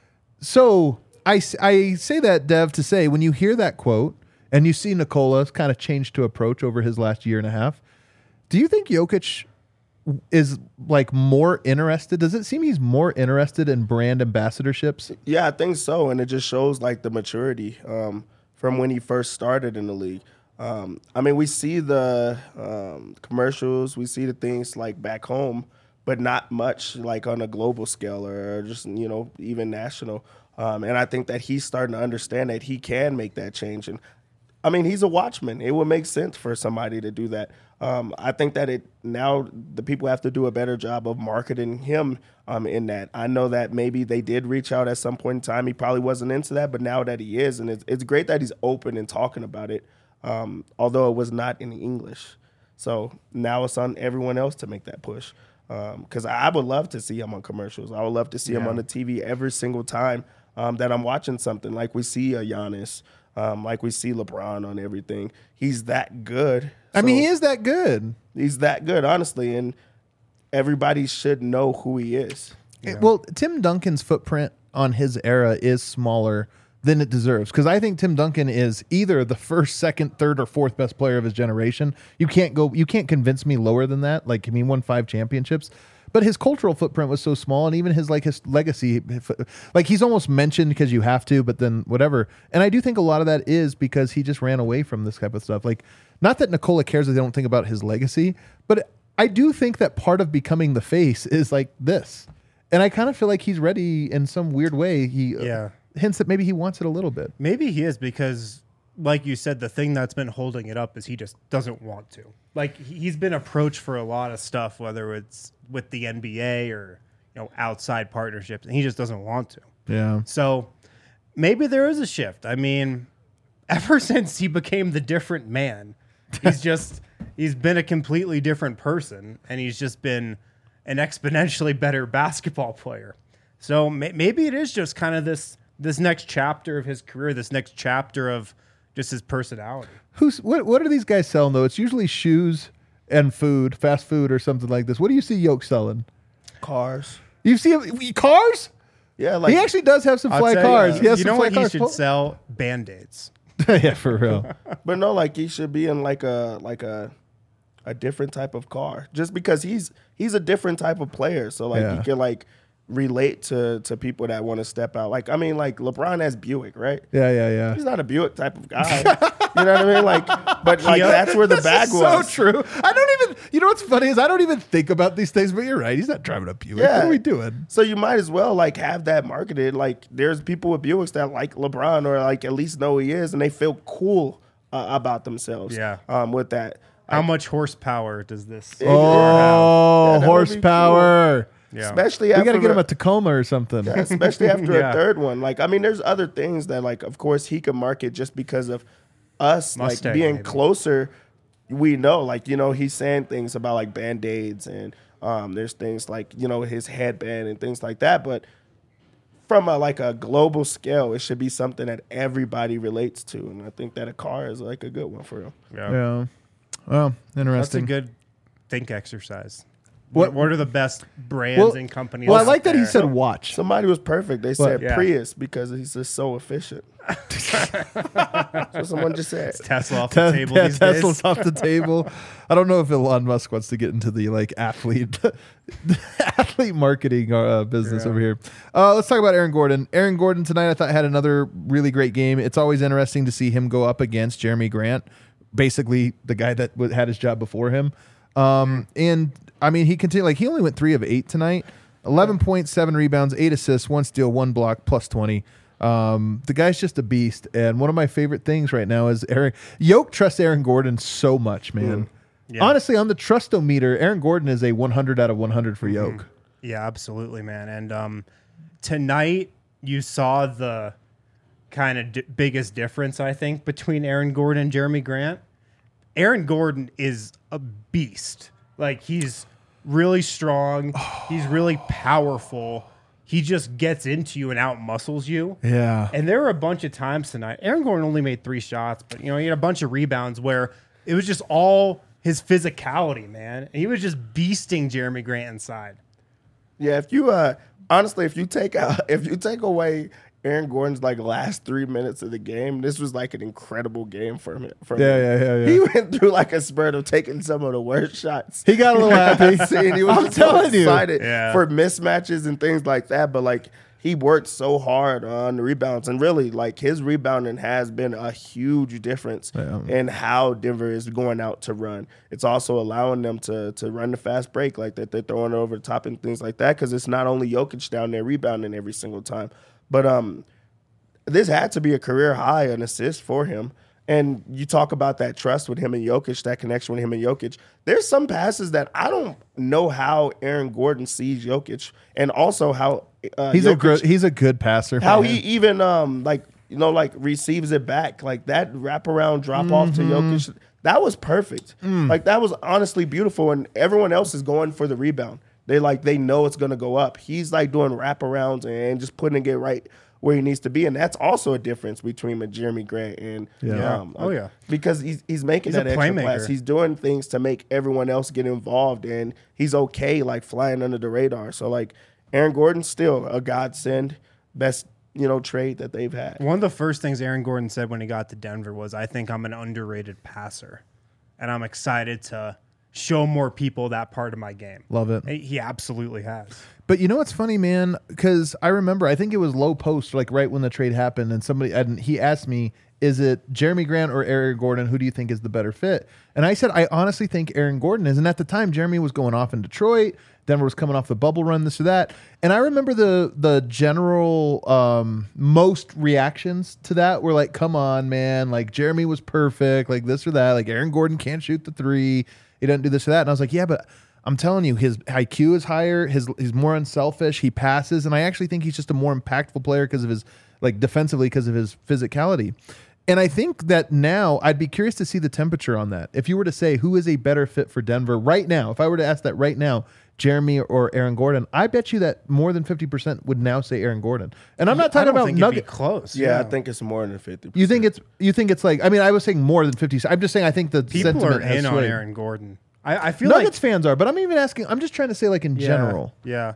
So I say that, Dev, to say when you hear that quote and you see Nikola kind of change to approach over his last year and a half, do you think Jokic is more interested? Does it seem he's more interested in brand ambassadorships? Yeah, I think so, and it just shows the maturity from when he first started in the league. I mean, we see the commercials, we see the things like back home, but not much like on a global scale or just, even national. And I think that he's starting to understand that he can make that change. And I mean, he's a watchman. It would make sense for somebody to do that. I think that now the people have to do a better job of marketing him in that. I know that maybe they did reach out at some point in time. He probably wasn't into that, but now that he is, and it's great that he's open and talking about it, although it was not in English. So now it's on everyone else to make that push. Because I would love to see him on commercials. I would love to see him on the TV every single time that I'm watching something. Like we see a Giannis, like we see LeBron on everything. He's that good. I mean, he is that good. He's that good, honestly, and everybody should know who he is. Yeah. Well, Tim Duncan's footprint on his era is smaller than it deserves, because I think Tim Duncan is either the first, second, third, or fourth best player of his generation. You can't convince me lower than that. Like, I mean, he won 5 championships, but his cultural footprint was so small, and even his legacy, like he's almost mentioned because you have to, but then whatever. And I do think a lot of that is because he just ran away from this type of stuff. Like, not that Nikola cares that they don't think about his legacy, but I do think that part of becoming the face is like this. And I kind of feel like he's ready in some weird way. He hints that maybe he wants it a little bit. Maybe he is, because like you said, the thing that's been holding it up is he just doesn't want to. Like, he's been approached for a lot of stuff, whether it's with the NBA or outside partnerships, and he just doesn't want to. Yeah. So maybe there is a shift. I mean, ever since he became the different man, he's been a completely different person, and he's just been an exponentially better basketball player. So maybe it is just kind of this next chapter of his career, this next chapter of just his personality. What are these guys selling though? It's usually shoes and food, fast food or something like this. What do you see Yoke selling? Cars. You see cars? Yeah, like he actually does have some fly cars. He has some fly cars. He should sell? Band-Aids. Yeah, for real. But no, like he should be in like a different type of car, just because he's a different type of player. So like he can like relate to people that want to step out. Like, I mean, like LeBron has Buick, right? Yeah. He's not a Buick type of guy. You know what I mean? Like, but like that's where the bag was. So true. I don't even. You know what's funny is I don't even think about these things. But you're right. He's not driving a Buick. Yeah. What are we doing? So you might as well like have that marketed. Like, there's people with Buicks that like LeBron, or like at least know who he is, and they feel cool about themselves. Yeah. With that. How much horsepower does this? Oh, horsepower. Yeah. Especially We after got to get him a Tacoma or something. especially after a third one. Like, I mean, there's other things that, like, of course, he could market just because of us, Mustang, like, being maybe. closer. We know, like, he's saying things about, like, Band-Aids, and there's things like, his headband and things like that. But from a global scale, it should be something that everybody relates to. And I think that a car is, like, a good one for him. Yeah. Well, That's interesting. a good think exercise. What- What are the best brands and companies? Well, I out like that he there? said watch. Somebody was perfect. They said Yeah. Prius because he's just so efficient. That's what someone just said. Tesla off the table these Tesla's days. off the table. I don't know if Elon Musk wants to get into the athlete marketing business over here. Let's talk about Aaron Gordon. Aaron Gordon tonight I thought had another really great game. It's always interesting to see him go up against Jeremy Grant, basically the guy that had his job before him. And I mean, he continued, he only went 3 of 8 tonight, 11 points, 7 rebounds, 8 assists, 1 steal, 1 block, plus 20. The guy's just a beast. And one of my favorite things right now is Yoke trusts Aaron Gordon so much, man. Yeah. Honestly, on the trust-o-meter, Aaron Gordon is a 100 out of 100 for Yoke. Yeah, absolutely, man. And tonight you saw the kind of biggest difference, I think, between Aaron Gordon and Jeremy Grant. Aaron Gordon is a beast. Like, he's really strong. He's really powerful. He just gets into you and out-muscles you. Yeah. And there were a bunch of times tonight. Aaron Gordon only made 3 shots, but, he had a bunch of rebounds where it was just all his physicality, man. And he was just beasting Jeremy Grant inside. Yeah, if you honestly, if you take away Aaron Gordon's last 3 minutes of the game, this was an incredible game for him. Yeah. He went through a spurt of taking some of the worst shots. He got a little happy. He was I'm telling you. excited Yeah. for mismatches and things like that. But he worked so hard on the rebounds, and really, like, his rebounding has been a huge difference in how Denver is going out to run. It's also allowing them to run the fast break like that. They're throwing it over the top and things like that because it's not only Jokic down there rebounding every single time, but this had to be a career high in assists for him. And you talk about that trust with him and Jokic, that connection with him and Jokic. There's some passes that I don't know how Aaron Gordon sees Jokic, and also how he's Jokic, a good passer. how he even receives it back, like that wraparound drop off to Jokic. That was perfect. Like, that was honestly beautiful, and everyone else is going for the rebound. They know it's gonna go up. He's like doing wraparounds and just putting it right where he needs to be, and that's also a difference between Jeremy Grant and because he's making that extra pass. He's doing things to make everyone else get involved, and he's okay like flying under the radar. So like Aaron Gordon's still a godsend, best trade that they've had. One of the first things Aaron Gordon said when he got to Denver was, "I think I'm an underrated passer, and I'm excited to show more people that part of my game." Love it. He absolutely has. But you know what's funny, man? Because I remember, I think it was Low Post, like right when the trade happened, and he asked me, is it Jeremy Grant or Aaron Gordon? Who do you think is the better fit? And I said, I honestly think Aaron Gordon is. And at the time, Jeremy was going off in Detroit. Denver was coming off the bubble run, this or that. And I remember the general most reactions to that were like, come on, man. Like, Jeremy was perfect, like this or that. Like, Aaron Gordon can't shoot the three. He doesn't do this or that. And I was like, yeah, but I'm telling you, his IQ is higher. He's more unselfish. He passes, and I actually think he's just a more impactful player because of his, like, defensively, because of his physicality. And I think that now I'd be curious to see the temperature on that. If you were to say who is a better fit for Denver right now, if I were to ask that right now, Jeremy or Aaron Gordon, I bet you that more than 50% would now say Aaron Gordon. And I'm not talking about Nugget. Close. Yeah, I think it's more than 50%. You think it's like, I mean, I was saying more than 50. I'm just saying I think the people sentiment are has in on swayed. Aaron Gordon. I feel Nuggets fans are, but I'm even asking. I'm just trying to say, like, in general. Yeah.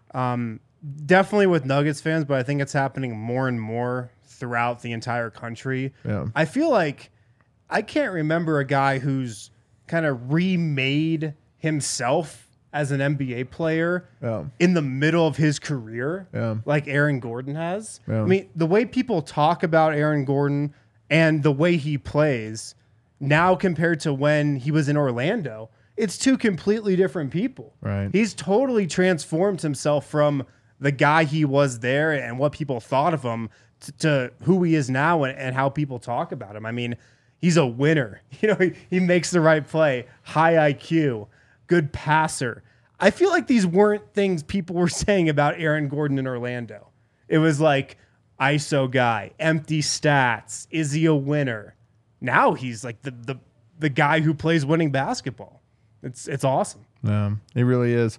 Definitely with Nuggets fans, but I think it's happening more and more throughout the entire country. Yeah. I feel like I can't remember a guy who's kind of remade himself as an NBA player in the middle of his career like Aaron Gordon has. I mean, the way people talk about Aaron Gordon and the way he plays now compared to when he was in Orlando, it's two completely different people. Right. He's totally transformed himself from the guy he was there and what people thought of him to who he is now and how people talk about him. I mean, he's a winner. He makes the right play, high IQ, good passer. I feel like these weren't things people were saying about Aaron Gordon in Orlando. It was like ISO guy, empty stats. Is he a winner? Now he's like the guy who plays winning basketball. It's awesome. Yeah, it really is.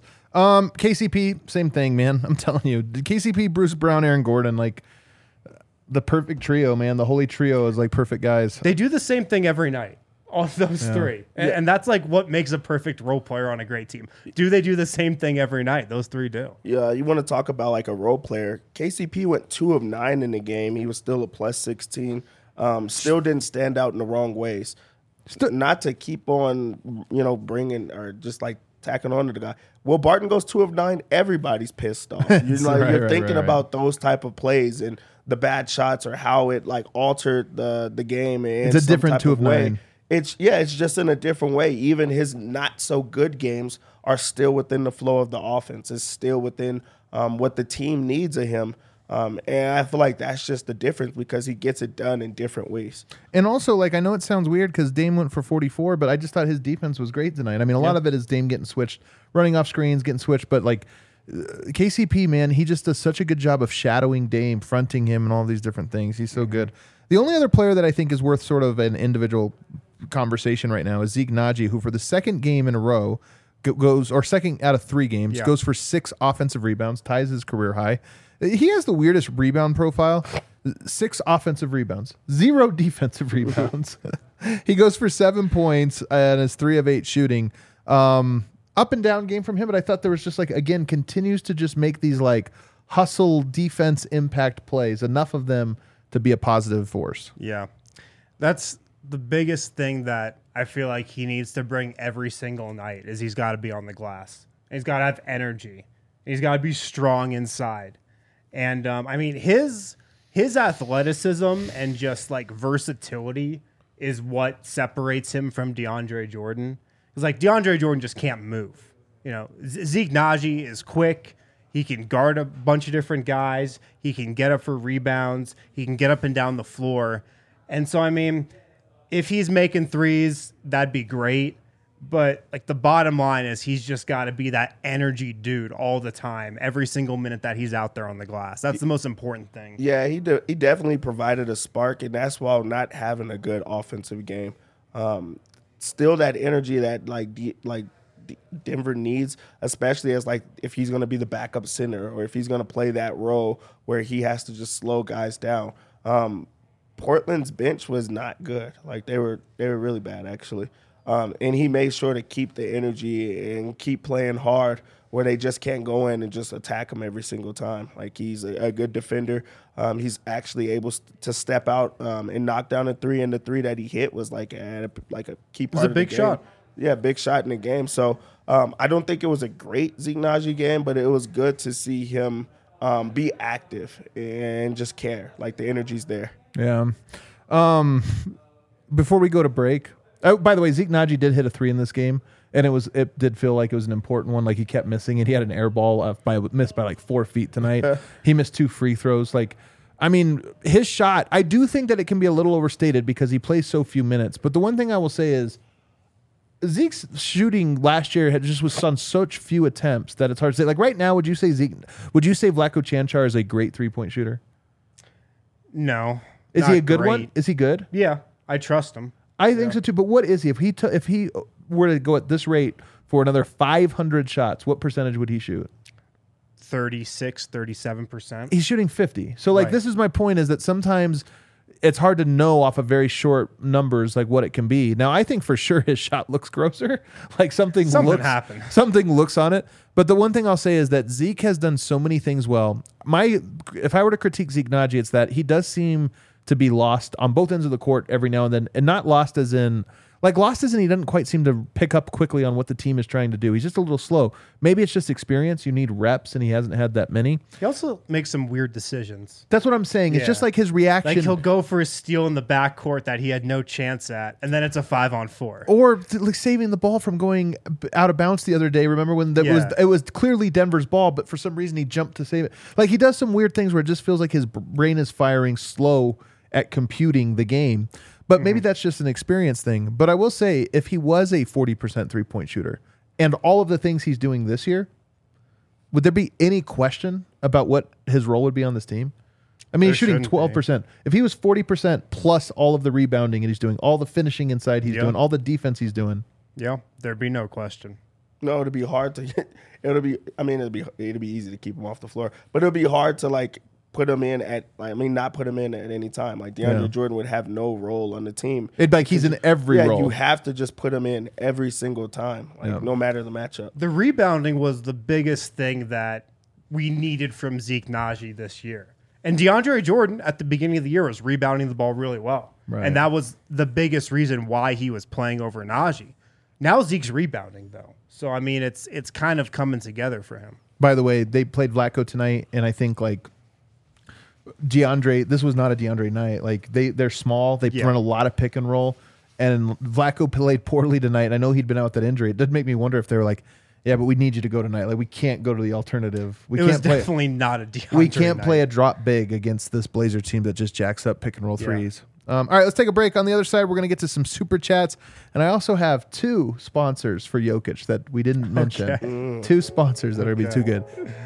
KCP, same thing, man. I'm telling you, KCP, Bruce Brown, Aaron Gordon, like the perfect trio, man. The holy trio is like perfect guys. They do the same thing every night. All those three. And that's like what makes a perfect role player on a great team. Do they do the same thing every night? Those three do. Yeah, you want to talk about like a role player. KCP went 2 of 9 in the game. He was still a plus 16. Still didn't stand out in the wrong ways. Not to keep on, bringing or just like tacking on to the guy. Will Barton goes 2 of 9. Everybody's pissed off. You're thinking about those type of plays and the bad shots or how it like altered the game. It's a different 2 of 9. It's just in a different way. Even his not so good games are still within the flow of the offense. It's still within what the team needs of him. And I feel like that's just the difference because he gets it done in different ways. And also, like, I know it sounds weird because Dame went for 44, but I just thought his defense was great tonight. I mean, a lot of it is Dame getting switched, running off screens, getting switched, but like KCP, man, he just does such a good job of shadowing Dame, fronting him, and all these different things. He's so good. The only other player that I think is worth sort of an individual conversation right now is Zeke Naji, who for the second game in a row goes, or second out of 3 games, goes for 6 offensive rebounds, ties his career high. He has the weirdest rebound profile. 6 offensive rebounds, 0 defensive rebounds. He goes for 7 points and is 3 of 8 shooting. Up and down game from him, but I thought there was just like, again, continues to just make these like hustle defense impact plays, enough of them to be a positive force. Yeah. That's the biggest thing that I feel like he needs to bring every single night is he's got to be on the glass. He's got to have energy. He's got to be strong inside. And I mean, his athleticism and just like versatility is what separates him from DeAndre Jordan. Because like DeAndre Jordan just can't move. You know, Zeke Nnaji is quick. He can guard a bunch of different guys. He can get up for rebounds. He can get up and down the floor. And so, I mean, if he's making threes, that'd be great. But like the bottom line is he's just got to be that energy dude all the time, every single minute that he's out there on the glass. That's the most important thing. Yeah, he definitely provided a spark, and that's while not having a good offensive game. Still that energy that Denver needs, especially as like if he's going to be the backup center or if he's going to play that role where he has to just slow guys down. Portland's bench was not good. Like they were really bad actually. And he made sure to keep the energy and keep playing hard where they just can't go in and just attack him every single time. Like he's a good defender. He's actually able to step out and knock down a three, and the three that he hit was like a key part of the game. It was a big shot. Yeah, big shot in the game. So I don't think it was a great Zeke Nnaji game, but it was good to see him be active and just care. Like the energy's there. Yeah. Before we go to break, oh, by the way, Zeke Nnaji did hit a three in this game, and it did feel like it was an important one. Like he kept missing it. He had an air ball missed by like 4 feet tonight. He missed 2 free throws. Like, I mean, his shot, I do think that it can be a little overstated because he plays so few minutes. But the one thing I will say is Zeke's shooting last year was on such few attempts that it's hard to say. Like right now, would you say Vlatko Cancar is a great 3-point shooter? No. Is he a good one? Is he good? Yeah, I trust him. I think so too. But what is he? If he were to go at this rate for another 500 shots, what percentage would he shoot? 36, 37%. He's shooting 50. So like This is my point, is that sometimes it's hard to know off of very short numbers like what it can be. Now I think for sure his shot looks grosser. Like something happened. Something looks on it. But the one thing I'll say is that Zeke has done so many things well. If I were to critique Zeke Nnaji, it's that he does seem to be lost on both ends of the court every now and then, and not lost as in he doesn't quite seem to pick up quickly on what the team is trying to do. He's just a little slow. Maybe it's just experience. You need reps, and he hasn't had that many. He also makes some weird decisions. That's what I'm saying. It's just like his reaction. Like he'll go for a steal in the backcourt that he had no chance at, and then it's a 5-on-4. Or like saving the ball from going out of bounds the other day. Remember when it was clearly Denver's ball, but for some reason he jumped to save it. Like he does some weird things where it just feels like his brain is firing slow at computing the game. But maybe that's just an experience thing. But I will say, if he was a 40% 3-point shooter and all of the things he's doing this year, would there be any question about what his role would be on this team? I mean, he's shooting 12%. If he was 40% plus all of the rebounding and he's doing all the finishing inside, he's doing all the defense he's doing. Yeah, there'd be no question. No, it'd be hard to get. It'd be easy to keep him off the floor, but it'll be hard to like put him in not put him in at any time. Like DeAndre Jordan would have no role on the team. It'd be like he's in every role. You have to just put him in every single time, no matter the matchup. The rebounding was the biggest thing that we needed from Zeke Nnaji this year. And DeAndre Jordan at the beginning of the year was rebounding the ball really well. Right. And that was the biggest reason why he was playing over Nnaji. Now Zeke's rebounding though. So I mean it's kind of coming together for him. By the way, they played Vlatko tonight, and I think like DeAndre, this was not a DeAndre night. Like they're small. They run a lot of pick and roll, and Vlatko played poorly tonight. I know he'd been out with that injury. It did make me wonder if they were like, yeah, but we need you to go tonight. Like we can't go to the alternative. It was definitely not a DeAndre We can't night. Play a drop big against this Blazer team that just jacks up pick and roll threes. All right, let's take a break. On the other side, we're going to get to some super chats, and I also have 2 sponsors for Jokic that we didn't mention. 2 sponsors that are going to be too good.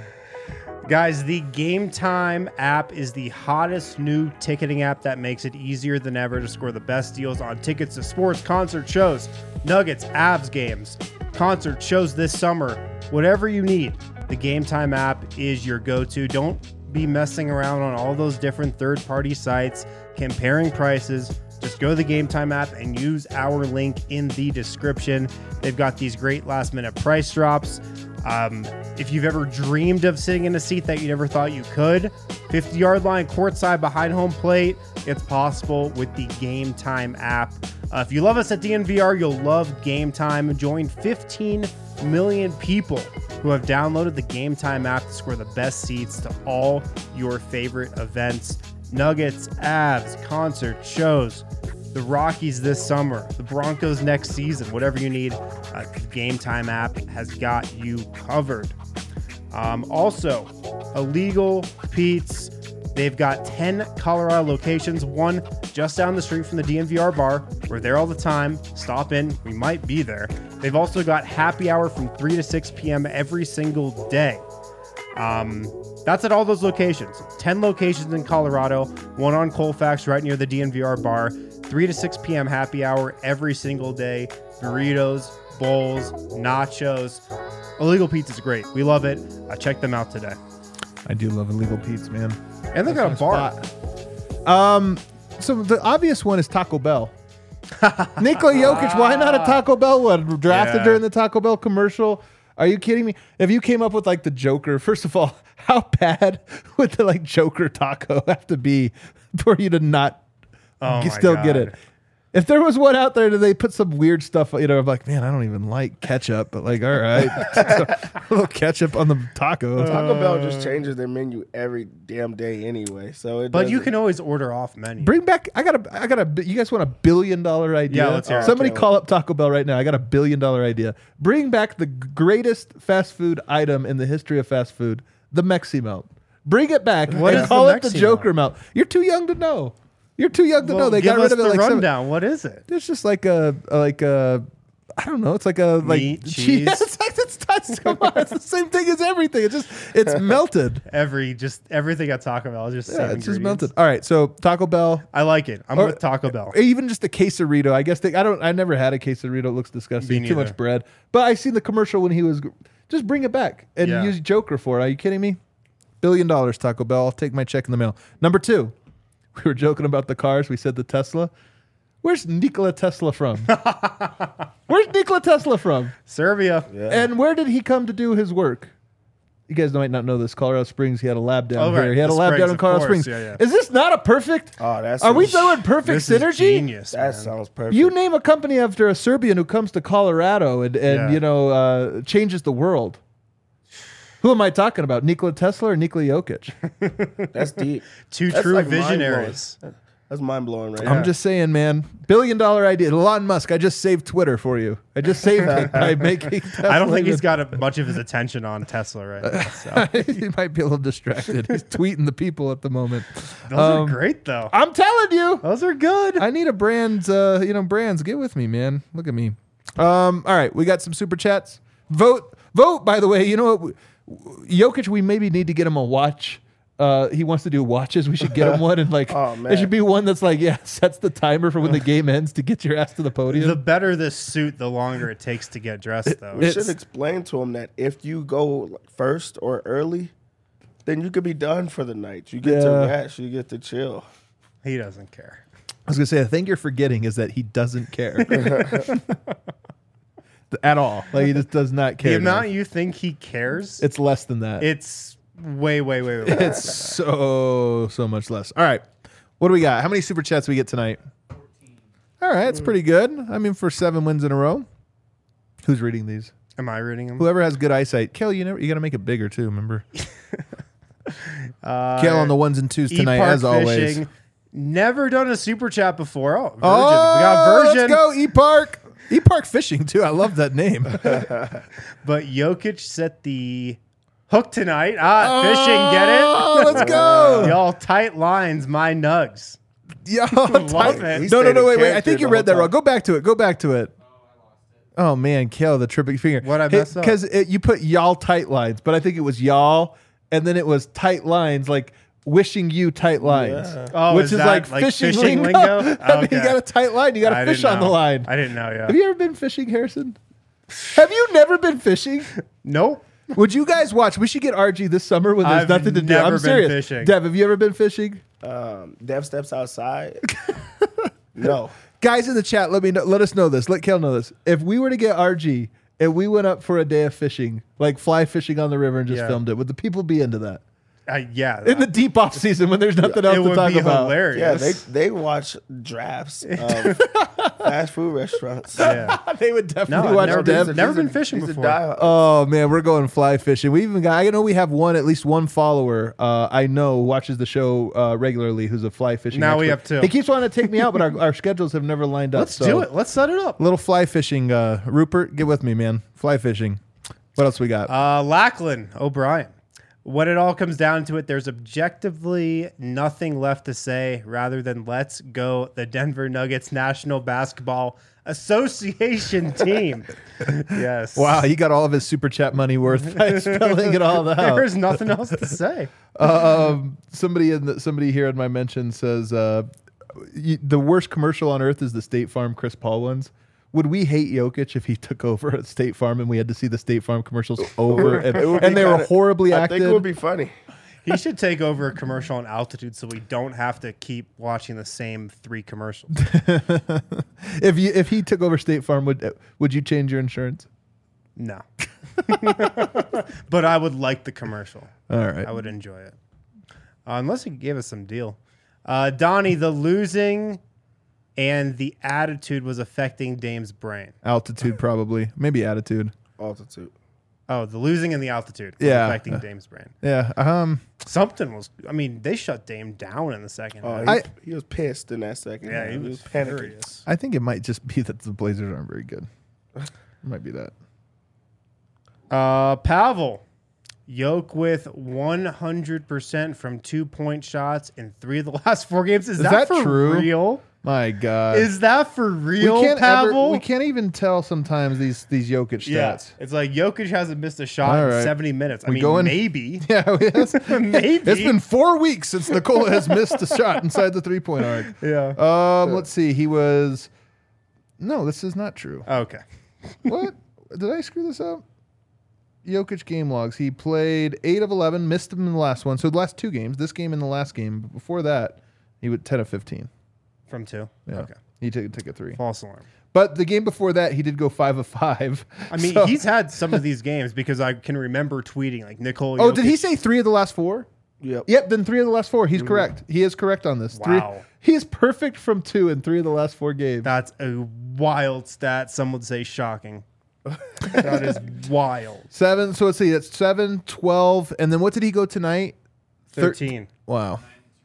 Guys, the Game Time app is the hottest new ticketing app that makes it easier than ever to score the best deals on tickets to sports, concert shows, Nuggets, Avs games, concert shows this summer. Whatever you need, the Game Time app is your go-to. Don't be messing around on all those different third-party sites, comparing prices. Just go to the Game Time app and use our link in the description. They've got these great last-minute price drops. If you've ever dreamed of sitting in a seat that you never thought you could, 50-yard line, courtside, behind home plate, it's possible with the Game Time app. If you love us at DNVR, you'll love Game Time. Join 15 million people who have downloaded the Game Time app to score the best seats to all your favorite events. Nuggets, Avs, concert, shows, the Rockies this summer, the Broncos next season, whatever you need, the Game Time app has got you covered. Also, Illegal Pete's. They've got 10 Colorado locations, one just down the street from the DNVR bar. We're there all the time. Stop in. We might be there. They've also got happy hour from 3 to 6 p.m. every single day. That's at all those locations. 10 locations in Colorado, one on Colfax right near the DNVR bar. 3 to 6 p.m. happy hour every single day. Burritos, bowls, nachos. Illegal Pete's is great. We love it. Check them out today. I do love Illegal Pete's, man. And they got a bar. So the obvious one is Taco Bell. Nikola Jokic, why not a Taco Bell one? Drafted during the Taco Bell commercial. Are you kidding me? If you came up with like the Joker, first of all, how bad would the like Joker taco have to be for you to not get it? If there was one out there, do they put some weird stuff? You know, I'm like, man, I don't even like ketchup, but like, all right, a little ketchup on the taco. Taco Bell just changes their menu every damn day anyway. So it. But you can always order off menu. Bring back. I got a. You guys want $1 billion idea? Yeah, let's hear it. Somebody call up Taco Bell right now. I got $1 billion idea. Bring back the greatest fast food item in the history of fast food, the Mexi Melt. Bring it back What and is call the it the Mexi Joker Melt. You're too young to know. You're too young to know. They give got rid us of it the like rundown. What is it? It's just like a I don't know. It's like a Meat, cheese. Yeah, come on. It's the same thing as everything. It's melted. Everything at Taco Bell is just same It's just ingredients. melted. All right, so Taco Bell. I like it. I'm with Taco Bell. Even just a quesarito. I guess I never had a quesarito. It looks disgusting. Me Too neither. much bread. But I seen the commercial when he was just bring it back and Yeah. use Joker for it. Are you kidding me? $1 billion, Taco Bell. I'll take my check in the mail. Number 2. We were joking about the cars. We said the Tesla. Where's Nikola Tesla from? Where's Nikola Tesla from? Serbia. Yeah. And where did he come to do his work? You guys might not know this. Colorado Springs. He had a lab down right. here. He had The a lab Springs, down in of Colorado course. Springs. Yeah. Is this not a perfect? Oh, that's. Are we throwing perfect This synergy? is genius. That man. sounds perfect. You name a company after a Serbian who comes to Colorado and Yeah. changes the world. Who am I talking about? Nikola Tesla or Nikola Jokic? That's deep. Two That's true like visionaries. That's mind blowing, right? I'm just saying, man. $1 billion idea. Elon Musk, I just saved Twitter for you. I just saved it by making Tesla. I don't think he's got much of his attention on Tesla right now. So. He might be a little distracted. He's tweeting the people at the moment. Those are great, though. I'm telling you. Those are good. I need a brand, brands. Get with me, man. Look at me. All right, we got some super chats. Vote, by the way. You know what? Jokic, we maybe need to get him a watch. He wants to do watches. We should get him one, and Oh, man. it should be one that's like, sets the timer for when the game ends to get your ass to the podium. The better this suit, the longer it takes to get dressed, though. We It's- should explain to him that if you go first or early, then you could be done for the night. You get to Yeah. rest. You get to chill. He doesn't care. I was gonna say, I think you're forgetting is that he doesn't care at all. Like he just does not care. The amount you think he cares, it's less than that. it's way. It's so much less. All right. What do we got? How many super chats we get tonight? 14. All right, it's pretty good. I mean, for 7 wins in a row. Who's reading these? Am I reading him? Whoever has good eyesight. Kale, you got to make it bigger too, remember? Kale on the 1s and 2s tonight, E-Park as always. Fishing. Never done a super chat before. Oh, Virgin. Oh, We got Virgin. let's go, E-Park. E-Park Fishing, too. I love that name. But Jokic set the hook tonight. Fishing, get it? Oh, let's go. Y'all tight lines, my nugs. Yo, Love it. He No, stayed in wait. I character think you the read whole that time. wrong. Go back to it. Oh, man, Kale, the tripping finger. What'd I mess up? Because you put y'all tight lines, but I think it was y'all, and then it was tight lines, like wishing you tight lines. Yeah. Oh, which is is that like fishing lingo. I mean, Okay. you got a tight line. You got I a fish didn't on the know. line. I didn't know, yeah. Have you ever been fishing, Harrison? Have you never been fishing? Nope. Would you guys watch? We should get RG this summer when there's I've nothing to do. never I'm been serious. fishing. Dev, have you ever been fishing? Dev steps outside. No. Guys in the chat, let us know this. Let Kale know this. If we were to get RG and we went up for a day of fishing, like fly fishing on the river and just Yeah. filmed it, would the people be into that? Yeah. in the deep off season when there's nothing else it to would talk be about. hilarious. Yeah, they watch drafts of fast food restaurants. Yeah. They would definitely No, watch I've Dev. never been fishing He's a before. diehard. Oh man, we're going fly fishing. We even got. I know we have at least one follower. I know who watches the show regularly. Who's a fly fishing. Now we expert. have two. He keeps wanting to take me out, but our schedules have never lined up. Let's so. do it. Let's set it up. A little fly fishing. Rupert, get with me, man. Fly fishing. What else we got? Lackland O'Brien. When it all comes down to it, there's objectively nothing left to say rather than let's go the Denver Nuggets National Basketball Association team. Yes. Wow, he got all of his super chat money worth by spelling it all out. There's nothing else to say. Somebody here in my mention says the worst commercial on earth is the State Farm Chris Paul ones. Would we hate Jokic if he took over at State Farm and we had to see the State Farm commercials over and they were horribly I acted? think it would be funny. He should take over a commercial on Altitude so we don't have to keep watching the same 3 commercials. If he took over State Farm, would you change your insurance? No. But I would like the commercial. All right. I would enjoy it. Unless he gave us some deal. Donnie, the losing and the attitude was affecting Dame's brain. Altitude probably, maybe attitude. Altitude. Oh, the losing and the altitude was Yeah. affecting Dame's brain. Yeah. Something was. I mean, they shut Dame down in the second. Oh, half. he was pissed in that second. Yeah, he half. was panicking. furious. I think it might just be that the Blazers aren't very good. It might be that. Pavel, Yoke with 100% from 2-point shots in 3 of the last 4 games. Is that for true? real? My God. Is that for real, Pavel? we can't even tell sometimes these Jokic Yeah, stats. it's like Jokic hasn't missed a shot All in right. 70 minutes. I We mean, going- maybe. Yeah, yes. Maybe. It's been 4 weeks since Nikola has missed a shot inside the 3-point arc. Yeah. Let's see. He was. No, this is not true. Okay. What? Did I screw this up? Jokic game logs. He played 8 of 11, missed him in the last one. So the last 2 games, this game and the last game. But before that, he went 10 of 15. From 2? Yeah. Okay. He took a 3. False alarm. But the game before that, he did go 5 of 5. I mean, So- he's had some of these games because I can remember tweeting like Nikola. Oh, Jokic. did he say 3 of the last 4? Yep. Yep, then 3 of the last 4. He's correct. He is correct on this. Wow. He is perfect from 2 in 3 of the last 4 games. That's a wild stat. Some would say shocking. That is wild. 7. So let's see. That's 7, 12. And then what did he go tonight? 13. Wow.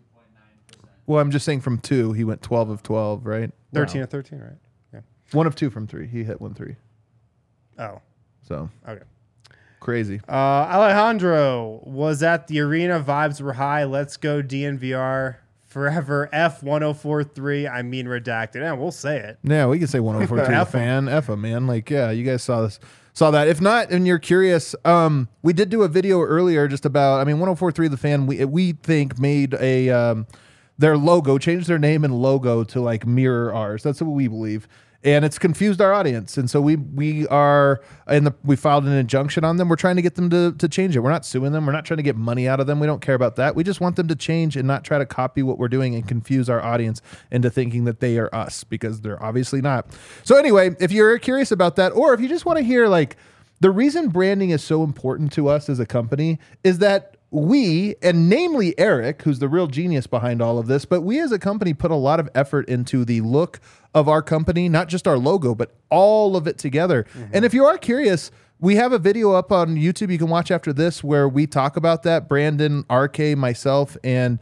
Well, I'm just saying from 2, he went 12 of 12, right? 13 Wow. of 13, right? Yeah. 1 of 2 from 3. He hit 1 3. Oh, So okay. crazy. Alejandro was at the arena. Vibes were high. Let's go DNVR forever. F1043. I mean redacted. And we'll say it. Yeah, we can say 104 to the F 'em. fan. F 'em, man. Like, yeah, you guys saw this. Saw that. If not, and you're curious, we did do a video earlier just about. I mean, 104.3 The Fan. We think made a their logo, changed their name and logo to like mirror ours. That's what we believe, and it's confused our audience. And so we are we filed an injunction on them. We're trying to get them to change it. We're not suing them. We're not trying to get money out of them. We don't care about that. We just want them to change and not try to copy what we're doing and confuse our audience into thinking that they are us, because they're obviously not. So anyway, if you're curious about that, or if you just want to hear like the reason branding is so important to us as a company is that we, and namely Eric, who's the real genius behind all of this, but we as a company put a lot of effort into the look of our company, not just our logo, but all of it together. And if you are curious, we have a video up on YouTube you can watch after this where we talk about that. Brandon, RK, myself, and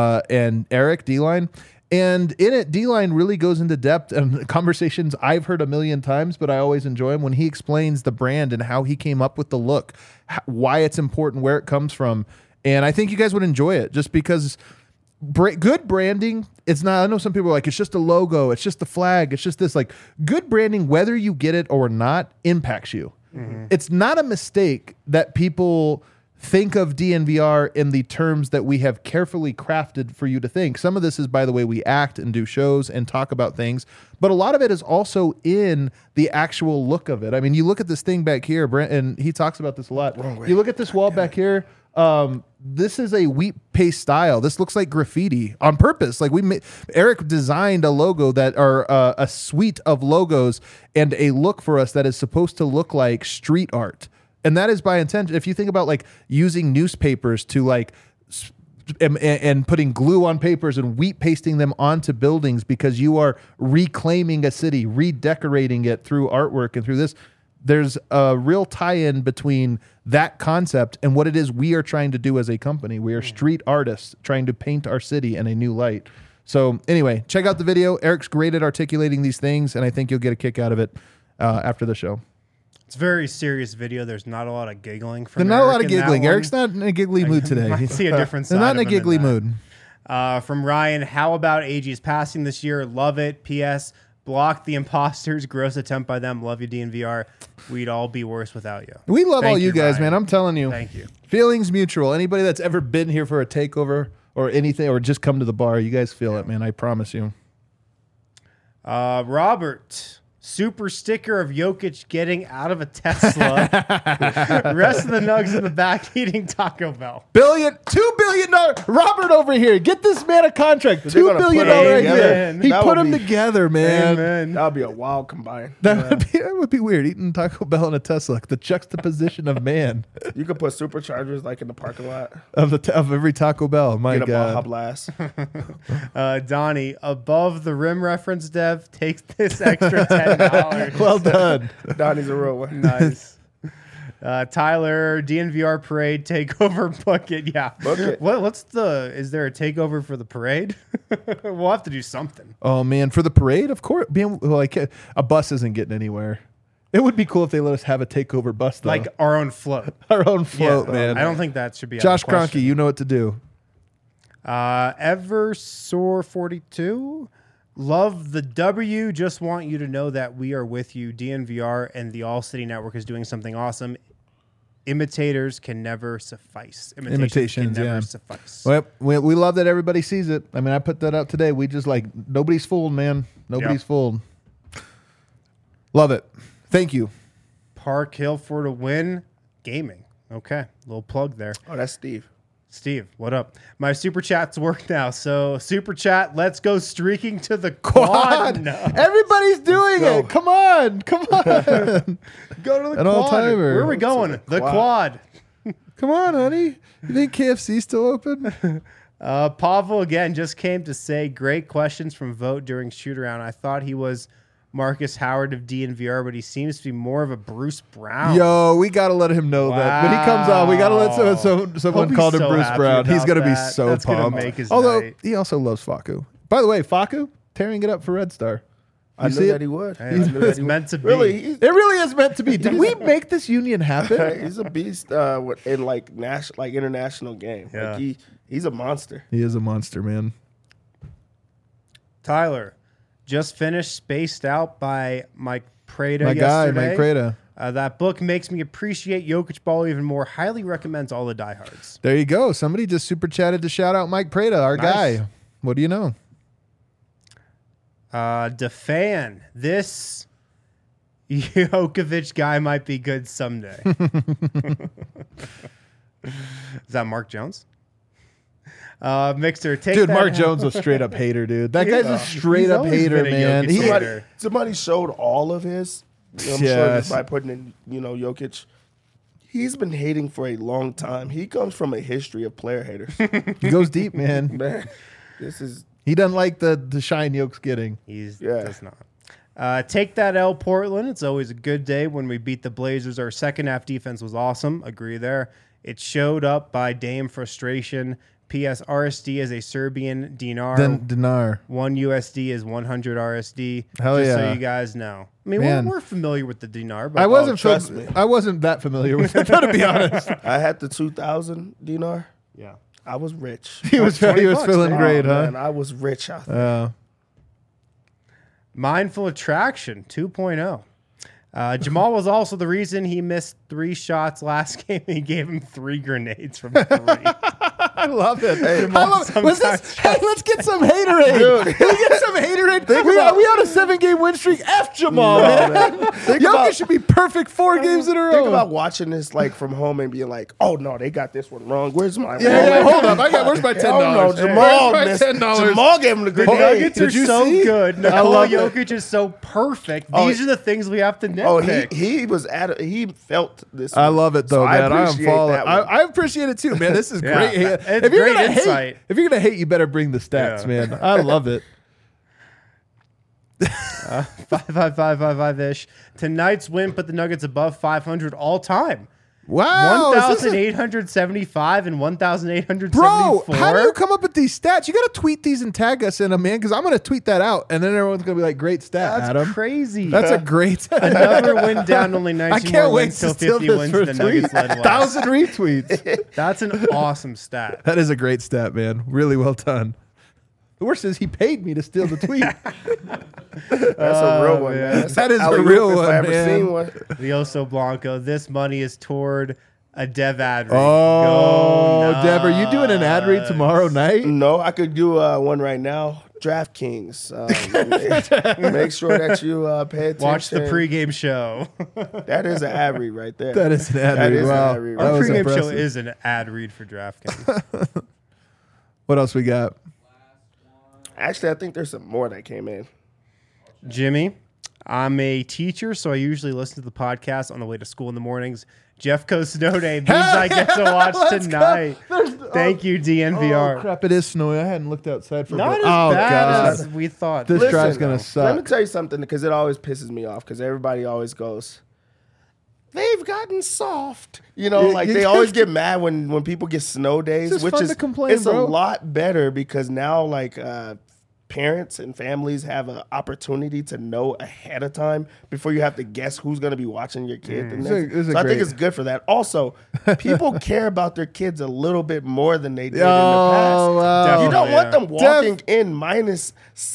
Eric D-Line. And in it, D-Line really goes into depth and conversations I've heard a million times, but I always enjoy him when he explains the brand and how he came up with the look, why it's important, where it comes from. And I think you guys would enjoy it just because good branding, it's not, I know some people are like, it's just a logo, it's just the flag, it's just this. Like, good branding, whether you get it or not, impacts you. It's not a mistake that people think of DNVR in the terms that we have carefully crafted for you to think. Some of this is by the way we act and do shows and talk about things, but a lot of it is also in the actual look of it. I mean, you look at this thing back here, Brent, and he talks about this a lot. You look at this wall back here. This is a wheat paste style. This looks like graffiti on purpose. Like Eric designed a logo a suite of logos and a look for us that is supposed to look like street art. And that is by intention. If you think about like using newspapers to like and putting glue on papers and wheat pasting them onto buildings because you are reclaiming a city, redecorating it through artwork and through this. There's a real tie-in between that concept and what it is we are trying to do as a company. We are street artists trying to paint our city in a new light. So anyway, check out the video. Eric's great at articulating these things, and I think you'll get a kick out of it after the show. It's a very serious video. There's not a lot of giggling from There's not a lot of Eric in that giggling. one. Eric's not in a giggly mood today. I see a different side. They're not in a of him giggly that. mood. From Ryan, how about AG's passing this year? Love it. P.S. Block the imposters. Gross attempt by them. Love you, DNVR. We'd all be worse without you. We love Thank all you guys, Ryan. man. I'm telling you. Thank you. Feelings mutual. Anybody that's ever been here for a takeover or anything or just come to the bar, you guys feel it, man. I promise you. Robert, super sticker of Jokic getting out of a Tesla. Rest of the nugs in the back eating Taco Bell. $2 billion. Robert over here. Get this man a contract. They're $2 gonna billion put 'em right together. here. He That put would them be- together, man. Amen. That would be a wild combine. That would be weird. Eating Taco Bell and a Tesla. The juxtaposition of man You could put superchargers like in the parking lot. of every Taco Bell. My Get a Baja God. Blast. Donnie, above the rim reference, Dev, takes this extra $10. Well done. Donnie's a real one. Nice. Tyler, DNVR parade takeover bucket. Yeah. Bucket. What's is there a takeover for the parade? We'll have to do something. Oh man, for the parade, of course. Being like a bus isn't getting anywhere. It would be cool if they let us have a takeover bus, though. Like our own float. our own float, man. I don't think that should be Josh out of question. Kroenke, you know what to do. Eversore42. Love the W. Just want you to know that we are with you. DNVR and the All City Network is doing something awesome. Imitators can never suffice. Imitations, can never yeah. suffice. Well, we love that everybody sees it. I mean, I put that out today. We just like, nobody's fooled, man. Nobody's Yeah. fooled. Love it. Thank you. Park Hill for to win gaming. Okay, little plug there. Oh, that's Steve. Steve, what up? My super chats work now. So super chat, let's go streaking to the Quad. quad. No. Everybody's doing go. it. Come on. Come on. Go to the An quad. all-timer. Where are we going? The quad. Come on, honey. You think KFC's still open? Pavel again just came to say great questions from Vote during shoot around. I thought he was Marcus Howard of DNVR, but he seems to be more of a Bruce Brown. Yo, we got to let him know that. When he comes on, we got to let someone Hope call he's him so Bruce happy Brown. He's about going to be that. so That's gonna pumped. make his Although, night. he also loves Faku. By the way, Faku, tearing it up for Red Star. I see knew it? that he would. Hey, I knew that it's he would. meant to be. Really, It really is meant to be. Did we make this union happen? he's a beast in like international game. Yeah. Like he's a monster. He is a monster, man. Tyler just finished Spaced Out by Mike Prada My guy, yesterday. Mike Prada. That book makes me appreciate Jokic ball even more. Highly recommends all the diehards. There you go. Somebody just super chatted to shout out Mike Prada, our Nice. guy. What do you know? DeFan, this Jokovic guy might be good someday. Is that Mark Jones? Mixer, take Dude, that. Mark Jones was straight up hater, dude. That guy's a straight up always hater, been a man. Jokic He, hater. Somebody showed all of his. I'm sure Yes. just by putting in, Jokic. He's been hating for a long time. He comes from a history of player haters. he goes deep, man. Man, this is He doesn't like the shine Yoke's getting. He Yeah. does not. Take that L, Portland. It's always a good day when we beat the Blazers. Our second half defense was awesome. Agree there. It showed up by Dame frustration. P.S. RSD is a Serbian dinar. Then Dinar. 1 USD is 100 RSD. Hell just yeah. so you guys know. I mean, Man. we're familiar with the dinar, but I wasn't trust me. I wasn't that familiar with it, to be honest. I had the 2,000 dinar. yeah. I was rich. He was $20, feeling man. great, huh? Man, I was rich out there. Mindful Attraction 2.0. Jamal was also the reason he missed 3 shots last game. He gave him 3 grenades from 3. I love it. I Jamal love it. Was this, sometimes hey, let's get some haterade. Can we get some haterade? We on a 7-game win streak. F Jamal, No, man. man. Think Jokic about- should be perfect 4 games in a row. Think about watching this like from home and being like, "Oh no, they got this one wrong. Where's my yeah, hold up. Where's my $10? Oh no, Jamal, Where's my missed- $10? Jamal gave him the The grenade. Nuggets are Did you so see? good. I Nikola love it. Jokic is so perfect. Oh, These are the things we have to Oh, nitpick. he was he felt this. I one. love it though, So man. I am appreciate following. that one. I appreciate it too, man. This is Yeah. great. It's if you're great gonna insight. hate, if you're gonna hate, you better bring the stats, Yeah. man. I love it. 5 ish. Tonight's win put the Nuggets above 500 all time. Wow, is this a- 1,875 and 1,874. Bro, how do you come up with these stats? You got to tweet these and tag us in them, man, because I'm going to tweet that out, and then everyone's going to be like, great stat, That's Adam. crazy. That's a great Another win down, only 19 I can't more wait wins to till steal 50 this wins. for The a Nuggets tweet. led west. 1,000 retweets. That's an awesome stat. That is a great stat, man. Really well done. The worst is he paid me to steal the tweet. That's a real one, man. That's That is a alley-oop real if one, I ever man. seen one. The Oso Blanco. This money is toward a Dev ad read. Oh, Go Dev, are you doing an ad read Nuts. tomorrow night? No, I could do one right now. DraftKings. Make sure that you pay attention. Watch the pregame show. That is an ad read right there. That is an ad That read. is an Wow. ad read That Our right was there. pregame show impressive. is an ad read for DraftKings. What else we got? Actually, I think there's some more that came in. Jimmy, I'm a teacher, so I usually listen to the podcast on the way to school in the mornings. Jeffco's snow day means I get to watch Let's go. tonight. There's- Thank you, DNVR. Oh, crap, it is snowy. I hadn't looked outside for a Not bit. as Oh, bad God. as we thought. This Listen, drive's going to Let me suck. tell you something because it always pisses me off because everybody always goes, they've gotten soft. You know, You- like you they just- always get mad when people get snow days, just which fun is to complain, it's bro. a lot better because now like parents and families have an opportunity to know ahead of time before you have to guess who's going to be watching your kid. the It's next- a so I great- think it's good for that. Also, people care about their kids a little bit more than they did in the Oh, past. wow. You don't Yeah. want them walking in minus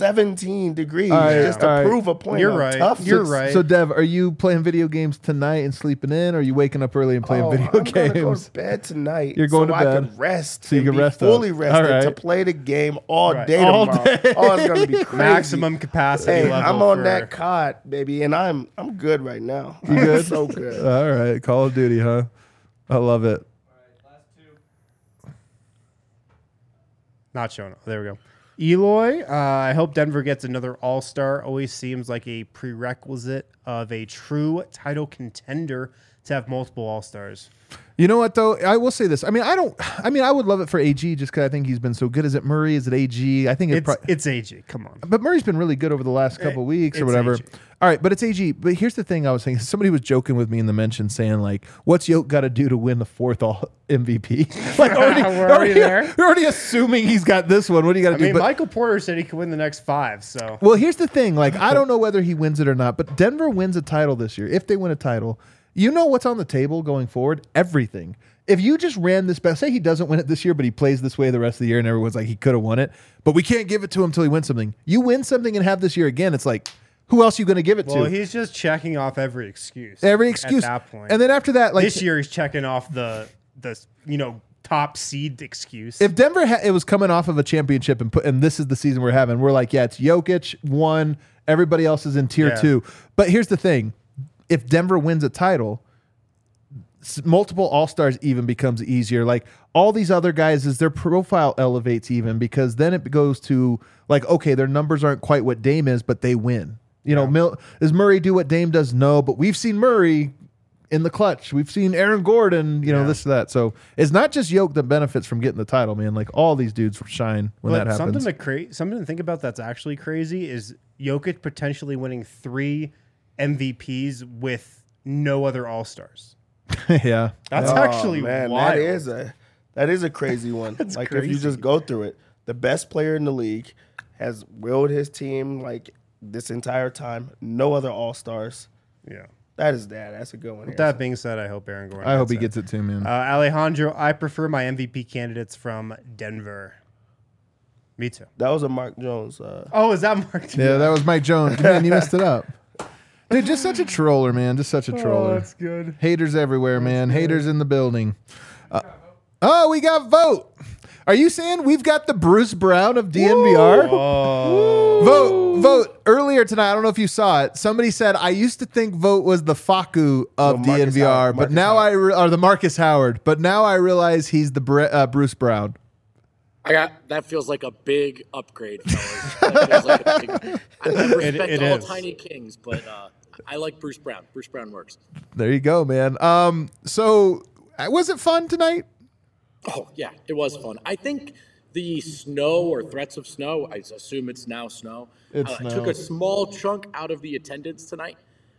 17 degrees All right, just to all right. prove a point. You're on right. toughness. You're right. So, Dev, are you playing video games tonight and sleeping in, or are you waking up early and playing Oh, video I'm gonna go games? to bed tonight. You're going so to I bed. could rest. So you and can be rest up. fully rested All right. to play the game all Right. day All tomorrow. day. Oh, it's gonna be crazy. Maximum capacity Hey, level. I'm on for- that cot, baby, and I'm good right now. You good? So good. All right, Call of Duty, huh? I love it. Not showing up. There we go. Eloy, I hope Denver gets another All-Star. Always seems like a prerequisite of a true title contender to have multiple All-Stars. You know what though? I will say this. I mean, I would love it for AG just because I think he's been so good. Is it Murray? Is it AG? I think It's AG. Come on. But Murray's been really good over the last couple of weeks or it's whatever. AG. All right, but it's AG. But here's the thing I was saying. Somebody was joking with me in the mention saying, like, what's Yoke got to do to win the fourth all MVP? Like, We're already there. We're already assuming he's got this one. What do you got to I do? mean, But- Michael Porter said he could win the next 5, so. well, here's the thing. Like, I don't know whether he wins it or not, but Denver wins a title this year. If they win a title, you know what's on the table going forward? Everything. If you just ran this back, say he doesn't win it this year, but he plays this way the rest of the year, and everyone's like, he could have won it, but we can't give it to him until he wins something. You win something and have this year again, it's like, who else are you going to give it Well, to? he's just checking off every excuse. Every excuse. At that point. And then after that, like, this year he's checking off the top seed excuse. if Denver it was coming off of a championship and this is the season we're having, we're like, yeah, it's Jokic, 1, everybody else is in tier Yeah. 2. But here's the thing. If Denver wins a title, multiple All-Stars even becomes easier. Like all these other guys, as their profile elevates even, because then it goes to like, okay, their numbers aren't quite what Dame is, but they win. You know, does Murray do what Dame does? No, but we've seen Murray in the clutch. We've seen Aaron Gordon, this, that. So it's not just Yoke that benefits from getting the title, man. Like all these dudes shine when But that happens. something to think about that's actually crazy is Jokic potentially winning 3 MVPs with no other All-Stars. Yeah. That's Oh, actually man, wild. that is a crazy one. Like if you crazy. just go through it, the best player in the league has willed his team like this entire time. No other All-Stars. Yeah. That's a good one. With that being said, I hope Aaron Gordon. I hope he gets gets it too, man. Alejandro, I prefer my MVP candidates from Denver. Me too. That was a Mark Jones. Oh, is that Mark? Yeah, that was Mike Jones. Man, you messed it up. Dude, just such a troller, man. Just such a troller. that's good. Haters everywhere, man. Haters in the building. Oh, we got Vote. Are you saying we've got the Bruce Brown of DNVR? Vote. Earlier tonight, I don't know if you saw it. Somebody said, I used to think Vote was the Faku of No, Marcus DNVR, Howard. but Marcus now Howard. or the Marcus Howard, but now I realize he's the Bruce Brown. That feels like a big upgrade, fellas. That feels like a big, I respect it all is. Tiny Kings, but I like Bruce Brown. Bruce Brown works. There you go, man. So was it fun tonight? Oh, yeah, it was fun. I think the snow or threats of snow, I assume it's now snow, took a small chunk out of the attendance tonight,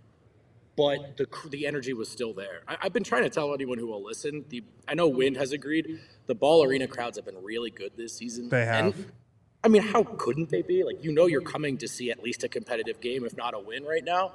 but the energy was still there. I've been trying to tell anyone who will listen. I know Wind has agreed. The Ball Arena crowds have been really good this season. They have. And, I mean, how couldn't they be? Like, you're coming to see at least a competitive game, if not a win right now.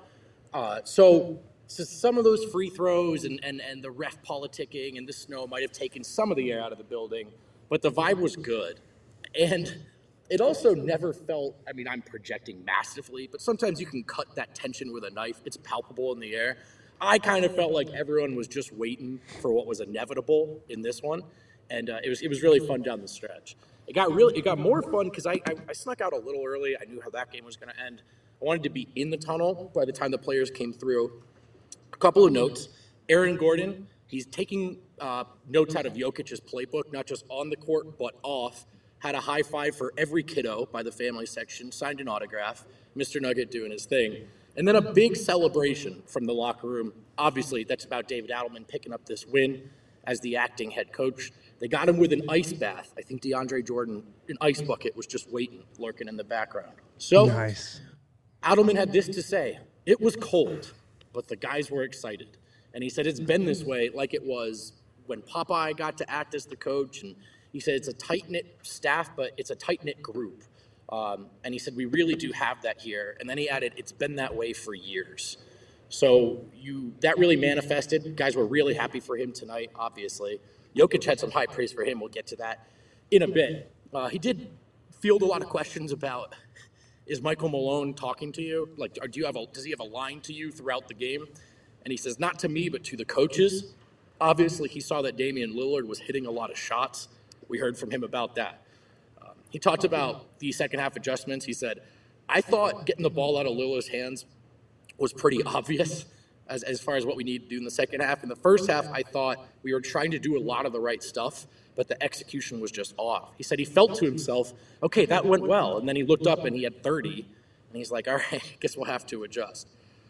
So some of those free throws and the ref politicking and the snow might have taken some of the air out of the building, but the vibe was good. And it also never felt, I mean, I'm projecting massively, but sometimes you can cut that tension with a knife. It's palpable in the air. I kind of felt like everyone was just waiting for what was inevitable in this one. And it was really fun down the stretch. It got more fun because I snuck out a little early. I knew how that game was going to end. I wanted to be in the tunnel by the time the players came through. A couple of notes. Aaron Gordon, he's taking notes out of Jokic's playbook, not just on the court, but off. Had a high five for every kiddo by the family section, signed an autograph. Mr. Nugget doing his thing. And then a big celebration from the locker room. Obviously, that's about David Adelman picking up this win as the acting head coach. They got him with an ice bath. I think DeAndre Jordan, an ice bucket, was just waiting, lurking in the background. So Nice. Adelman had this to say. It was cold, but the guys were excited. And he said it's been this way like it was when Popeye got to act as the coach. And he said it's a tight-knit staff, but it's a tight-knit group. And he said we really do have that here. And then he added, it's been that way for years. So that really manifested. Guys were really happy for him tonight, obviously. Jokic had some high praise for him. We'll get to that in a bit. He did field a lot of questions about, is Michael Malone talking to you? Like, does he have a line to you throughout the game? And he says, not to me, but to the coaches. Obviously, he saw that Damian Lillard was hitting a lot of shots. We heard from him about that. He talked about the second half adjustments. He said, I thought getting the ball out of Lillard's hands was pretty obvious as far as what we need to do in the second half. In the first half, I thought we were trying to do a lot of the right stuff, but the execution was just off. He said he felt to himself, okay, that went well. And then he looked up and he had 30, and he's like, all right, I guess we'll have to adjust.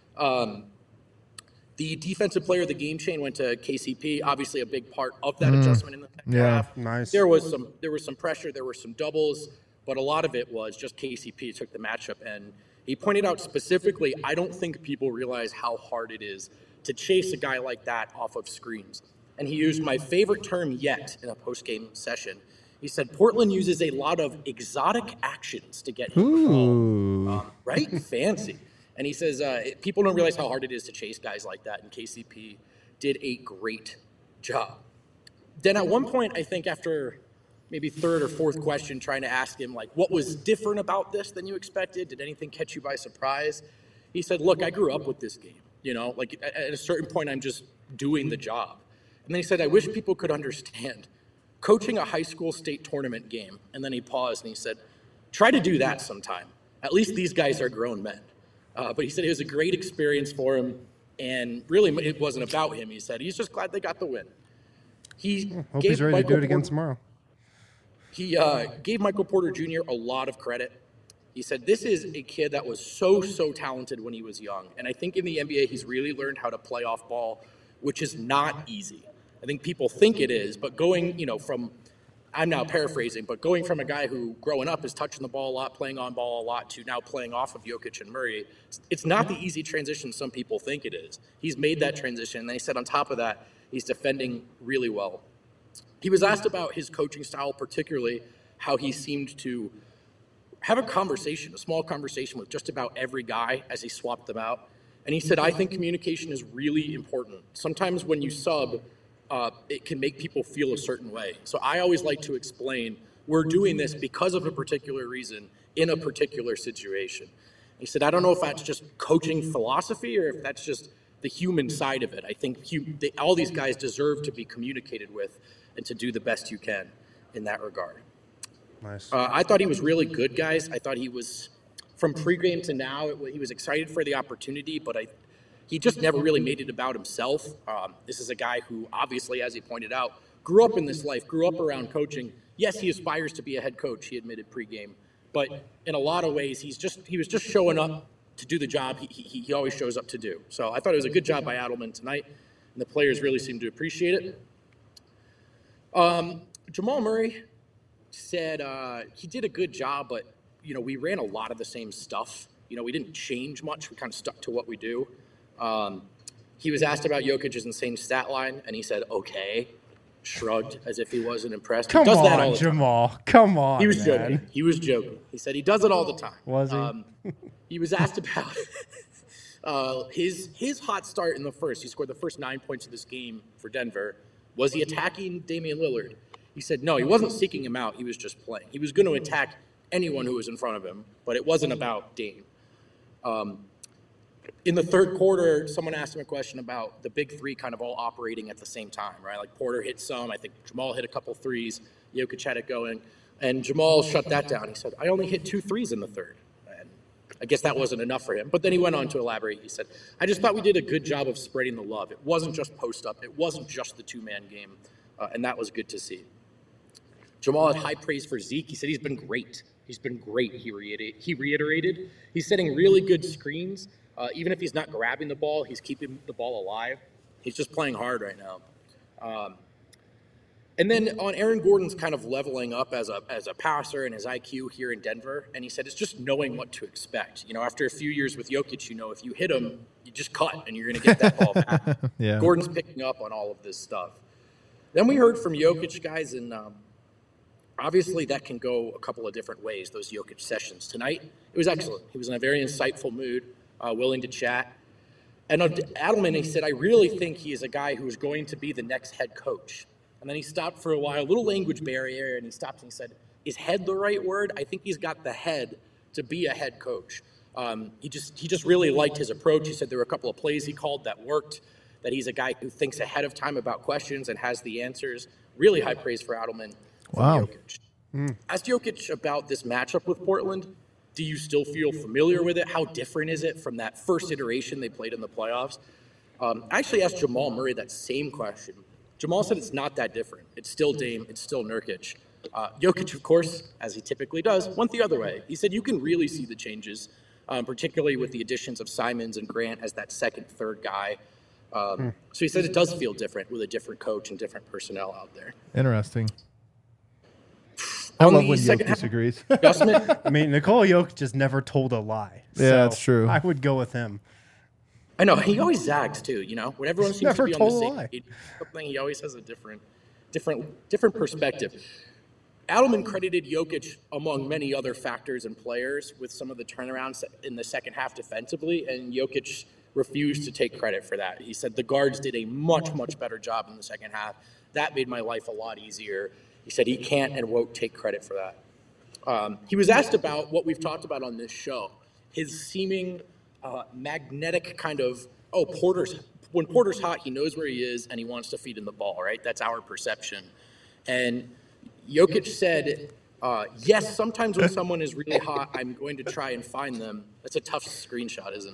The defensive player of the game chain went to KCP, obviously a big part of that adjustment in the second half. Nice. There was some pressure, there were some doubles, but a lot of it was just KCP took the matchup. And he pointed out specifically, I don't think people realize how hard it is to chase a guy like that off of screens. And he used my favorite term yet in a post-game session. He said, Portland uses a lot of exotic actions to get him the ball. Right? Fancy. And he says, people don't realize how hard it is to chase guys like that, and KCP did a great job. Then at one point, I think after maybe third or fourth question, trying to ask him, like, what was different about this than you expected? Did anything catch you by surprise? He said, look, I grew up with this game. Like at a certain point, I'm just doing the job. And then he said, I wish people could understand coaching a high school state tournament game. And then he paused and he said, try to do that sometime. At least these guys are grown men. But he said it was a great experience for him, and really it wasn't about him. He said he's just glad they got the win. Hope he's ready to do it again tomorrow. He gave Michael Porter Jr. a lot of credit. He said this is a kid that was so talented when he was young, and I think in the NBA he's really learned how to play off ball, which is not easy. I think people think it is, but going, from I'm now paraphrasing, but going from a guy who growing up is touching the ball a lot, playing on ball a lot, to now playing off of Jokic and Murray, it's not the easy transition some people think it is. He's made that transition, and he said on top of that, he's defending really well. He was asked about his coaching style, particularly how he seemed to have a small conversation with just about every guy as he swapped them out. And he said, I think communication is really important. Sometimes when you sub, it can make people feel a certain way. So I always like to explain, we're doing this because of a particular reason in a particular situation. He said, I don't know if that's just coaching philosophy or if that's just the human side of it. I think all these guys deserve to be communicated with and to do the best you can in that regard. Nice. I thought he was really good, guys. I thought he was, from pregame to now, he was excited for the opportunity, but he just never really made it about himself. This is a guy who, obviously, as he pointed out, grew up in this life, grew up around coaching. Yes, he aspires to be a head coach, he admitted pregame. But in a lot of ways, he was just showing up to do the job he always shows up to do. So I thought it was a good job by Adelman tonight, and the players really seemed to appreciate it. Jamal Murray said he did a good job, but, we ran a lot of the same stuff. We didn't change much. We kind of stuck to what we do. He was asked about Jokic's insane stat line, and he said, okay, shrugged as if he wasn't impressed. Come he does that all on, the time. Jamal. Come on, He was man. joking. He was joking. He said he does it all the time. Was he? He was asked about his hot start in the first. He scored the first 9 points of this game for Denver. Was he attacking Damian Lillard? He said no, he wasn't seeking him out. He was just playing. He was going to attack anyone who was in front of him, but it wasn't about Dame. In the third quarter, someone asked him a question about the big three kind of all operating at the same time, right? Like Porter hit some. I think Jamal hit a couple threes. Jokic had it going. And Jamal shut that down. He said, I only hit 2 threes in the third. And I guess that wasn't enough for him. But then he went on to elaborate. He said, I just thought we did a good job of spreading the love. It wasn't just post up. It wasn't just the two-man game. And that was good to see. Jamal had high praise for Zeke. He said he's been great. He's been great, he reiterated. He's setting really good screens. Even if he's not grabbing the ball, he's keeping the ball alive. He's just playing hard right now. And then on Aaron Gordon's kind of leveling up as a passer and his IQ here in Denver, and he said it's just knowing what to expect. After a few years with Jokic, if you hit him, you just cut and you're going to get that ball back. Yeah. Gordon's picking up on all of this stuff. Then we heard from Jokic, guys, and obviously that can go a couple of different ways, those Jokic sessions. Tonight, it was excellent. He was in a very insightful mood. Willing to chat. And Adelman, he said, I really think he is a guy who is going to be the next head coach. And then he stopped for a while, a little language barrier, and he stopped and he said, is head the right word? I think he's got the head to be a head coach. He just really liked his approach. He said there were a couple of plays he called that worked, that he's a guy who thinks ahead of time about questions and has the answers. Really high praise for Adelman. Wow. Jokic. Asked Jokic about this matchup with Portland. Do you still feel familiar with it? How different is it from that first iteration they played in the playoffs? I actually asked Jamal Murray that same question. Jamal said it's not that different. It's still Dame. It's still Nurkic. Jokic, of course, as he typically does, went the other way. He said you can really see the changes, particularly with the additions of Simons and Grant as that second, third guy. So he said it does feel different with a different coach and different personnel out there. Interesting. I On love the when Jokic second half disagrees. adjustment, I mean, Nikola Jokic just never told a lie. Yeah, that's true. I would go with him. I know he always zags too. When everyone seems to Never be on the told a same lie. page, something he always has a different perspective. Adelman credited Jokic, among many other factors and players, with some of the turnarounds in the second half defensively, and Jokic refused to take credit for that. He said the guards did a much, much better job in the second half. That made my life a lot easier. He said he can't and won't take credit for that. He was asked about what we've talked about on this show, his seeming magnetic kind of, when Porter's hot, he knows where he is and he wants to feed him the ball, right? That's our perception. And Jokic said, yes, sometimes when someone is really hot, I'm going to try and find them. That's a tough screenshot, isn't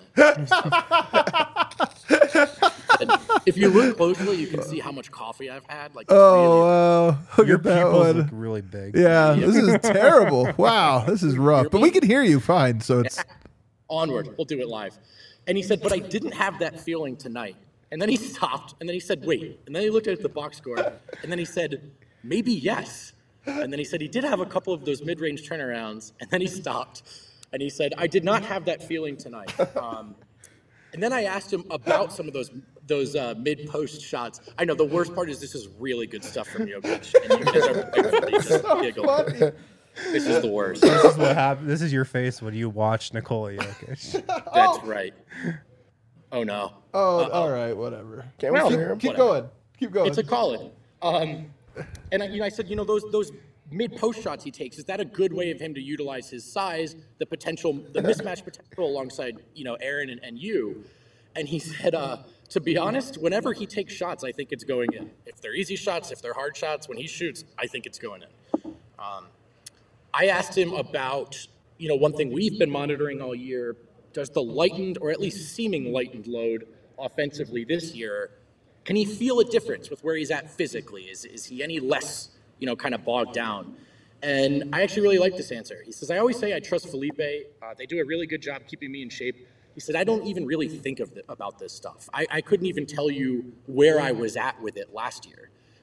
it? And if you look closely, you can see how much coffee I've had. Like, Wow. Look Your at that pupils one. look really big. Yeah, this is terrible. Wow, this is rough. But we can hear you fine, so it's onward. We'll do it live. And he said, but I didn't have that feeling tonight. And then he stopped, and then he said, wait. And then he looked at the box score, and then he said, maybe yes. And then he said he did have a couple of those mid-range turnarounds, and then he stopped. And he said, I did not have that feeling tonight. And then I asked him about some of those mid-post shots. I know the worst part is this is really good stuff from Jokic. And you guys are rightfully just giggle. This is the worst. This is what happened. This is your face when you watch Nikola Jokic. That's right. Oh, no. all right, whatever. Can't we hear him? Keep Whatever. going. It's a call-in. And I said, those mid-post shots he takes, is that a good way of him to utilize his size, the mismatch potential alongside, Aaron and you? And he said, to be honest, whenever he takes shots, I think it's going in. If they're easy shots, if they're hard shots, when he shoots, I think it's going in. I asked him about, one thing we've been monitoring all year, does the lightened, or at least seeming lightened load offensively this year, can he feel a difference with where he's at physically? Is he any less, kind of bogged down? And I actually really like this answer. He says, I always say I trust Felipe. They do a really good job keeping me in shape. He said, I don't even really think about this stuff. I couldn't even tell you where I was at with it last year.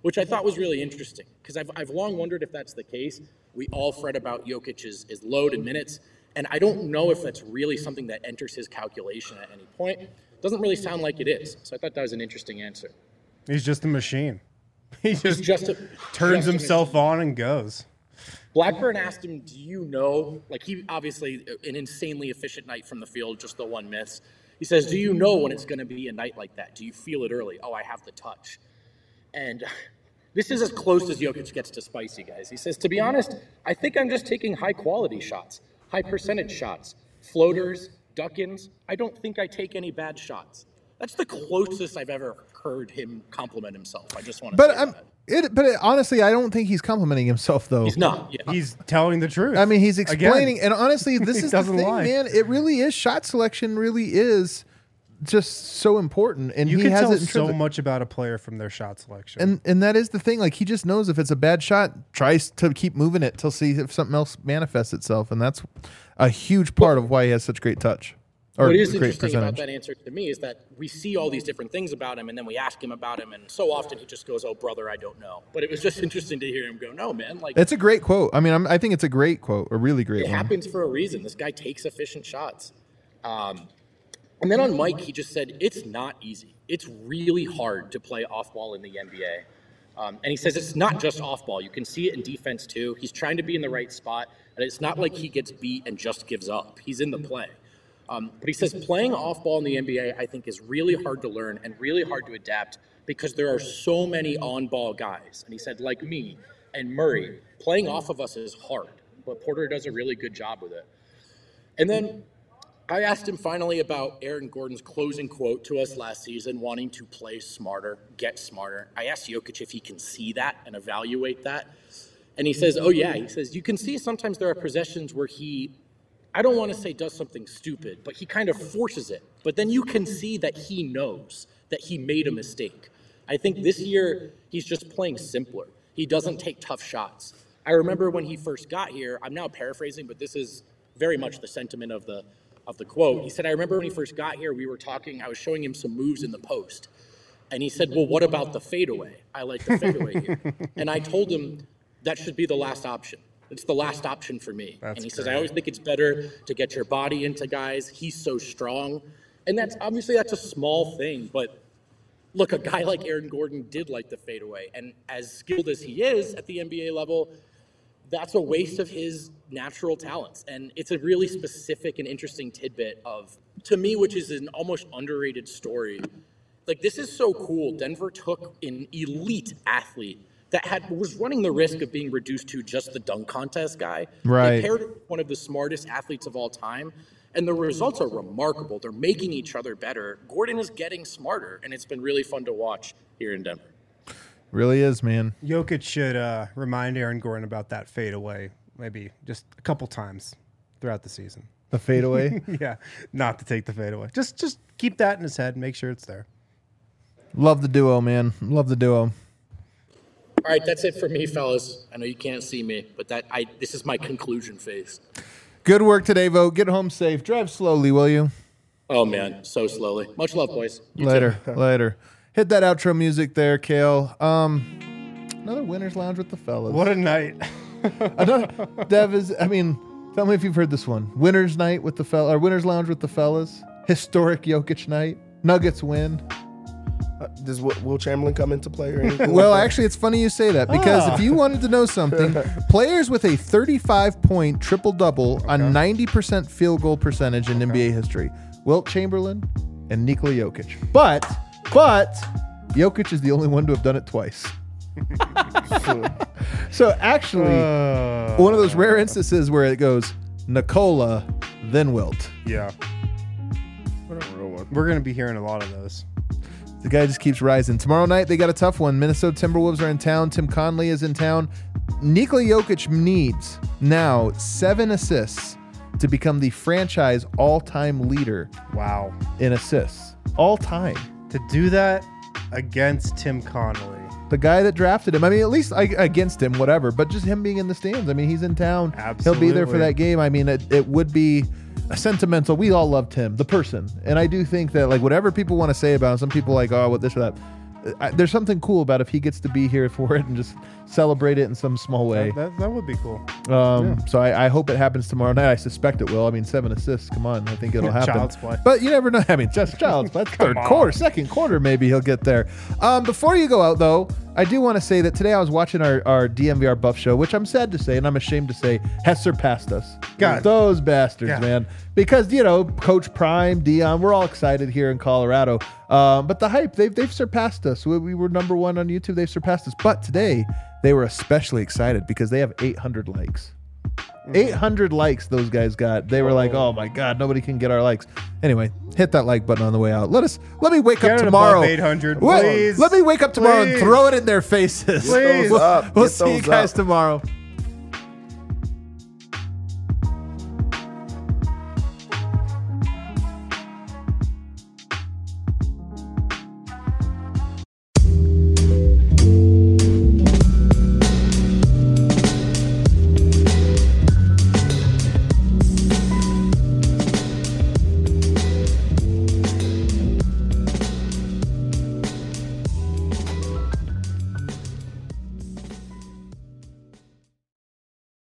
which I thought was really interesting because I've long wondered if that's the case. We all fret about Jokic's load and minutes, and I don't know if that's really something that enters his calculation at any point. Doesn't really sound like it is. So I thought that was an interesting answer. He's just a machine. He just turns himself on and goes. Blackburn asked him, do you know, like he obviously an insanely efficient night from the field, just the one miss. He says, do you know when it's going to be a night like that? Do you feel it early? Oh, I have the touch. And this is as close as Jokic gets to spicy, guys. He says, to be honest, I think I'm just taking high-quality shots, high-percentage shots, floaters, duck-ins. I don't think I take any bad shots. That's the closest I've ever heard him compliment himself. I just want to say that. Honestly, I don't think he's complimenting himself, though. He's not. Yeah. He's telling the truth. I mean, he's explaining. Again. And honestly, this is the thing, man. It really is. Shot selection really is just so important. And you he can has tell it so much about a player from their shot selection. And that is the thing. Like, he just knows if it's a bad shot, tries to keep moving it till see if something else manifests itself. And that's a huge part of why he has such great touch. What is interesting about that answer to me is that we see all these different things about him, and then we ask him about him, and so often he just goes, "Oh, brother, I don't know." But it was just interesting to hear him go, "No, man, like it's a great quote." I mean, I think it's a great quote, a really great one. It happens for a reason. This guy takes efficient shots. And then on Mike, he just said, "It's not easy. It's really hard to play off ball in the NBA." And he says it's not just off ball. You can see it in defense too. He's trying to be in the right spot, and it's not like he gets beat and just gives up. He's in the play. But he says playing off ball in the NBA, I think, is really hard to learn and really hard to adapt because there are so many on ball guys. And he said, like me and Murray, playing off of us is hard, but Porter does a really good job with it. And then I asked him finally about Aaron Gordon's closing quote to us last season, wanting to play smarter, get smarter. I asked Jokic if he can see that and evaluate that. And he says, oh, yeah. He says, you can see sometimes there are possessions where I don't want to say does something stupid, but he kind of forces it. But then you can see that he knows that he made a mistake. I think this year he's just playing simpler. He doesn't take tough shots. I remember when he first got here, I'm now paraphrasing, but this is very much the sentiment of the quote. He said, I remember when he first got here, we were talking, I was showing him some moves in the post. And he said, well, what about the fadeaway? I like the fadeaway here. And I told him that should be the last option. It's the last option for me. And he says, I always think it's better to get your body into guys. He's so strong. And that's a small thing. But look, a guy like Aaron Gordon did like the fadeaway. And as skilled as he is at the NBA level, that's a waste of his natural talents. And it's a really specific and interesting tidbit to me, which is an almost underrated story. Like, this is so cool. Denver took an elite athlete that was running the risk of being reduced to just the dunk contest guy. Right. They paired with one of the smartest athletes of all time, and the results are remarkable. They're making each other better. Gordon is getting smarter, and it's been really fun to watch here in Denver. Really is, man. Jokic should remind Aaron Gordon about that fadeaway maybe just a couple times throughout the season. The fadeaway? Yeah, not to take the fadeaway. Just keep that in his head and make sure it's there. Love the duo, man. Love the duo. All right, that's it for me, fellas. I know you can't see me, but this is my conclusion phase. Good work today, Vogt. Get home safe. Drive slowly, will you? Oh, man, so slowly. Much love, boys. You Later. too. Later. Hit that outro music there, Kale. Another Winner's Lounge with the fellas. What a night. Tell me if you've heard this one. Winner's Night with the fellas, or Winner's Lounge with the fellas. Historic Jokic night. Nuggets win. Does Will Chamberlain come into play or anything? Well, actually, it's funny you say that because if you wanted to know something, players with a 35-point triple-double on 90% field goal percentage in NBA history, Wilt Chamberlain and Nikola Jokic. But Jokic is the only one to have done it twice. So actually, one of those rare instances where it goes Nikola, then Wilt. Yeah. We're going to be hearing a lot of those. The guy just keeps rising. Tomorrow night, they got a tough one. Minnesota Timberwolves are in town. Tim Conley is in town. Nikola Jokic needs now 7 assists to become the franchise all-time leader. Wow. In assists. All time. To do that against Tim Conley. The guy that drafted him. I mean, at least against him, whatever. But just him being in the stands. I mean, he's in town. Absolutely. He'll be there for that game. I mean, it would be a sentimental. We all loved him, the person. And I do think that, like, whatever people want to say about him, some people like, oh, what this or that. there's something cool about if he gets to be here for it and just celebrate it in some small way. That would be cool. So I hope it happens tomorrow night. I suspect it will. I mean, 7 assists. Come on, I think it'll happen. Child's play. But you never know. I mean, just child's play. That's third quarter, second quarter, maybe he'll get there. Before you go out, though, I do want to say that today I was watching our DMVR Buff show, which I'm sad to say, and I'm ashamed to say, has surpassed us. God. Those bastards, God. man. Because, Coach Prime, Dion, we're all excited here in Colorado. But the hype, they've surpassed us. We were number 1 on YouTube. They've surpassed us. But today, they were especially excited because they have 800 likes. 800 likes those guys got. They were like, oh my God, nobody can get our likes. Anyway, hit that like button on the way out. Let me wake up Get it tomorrow. above 800, Wait, please. let me wake up tomorrow and Please. throw it in their faces. Please. We'll Up. we'll Get see you those guys up. tomorrow.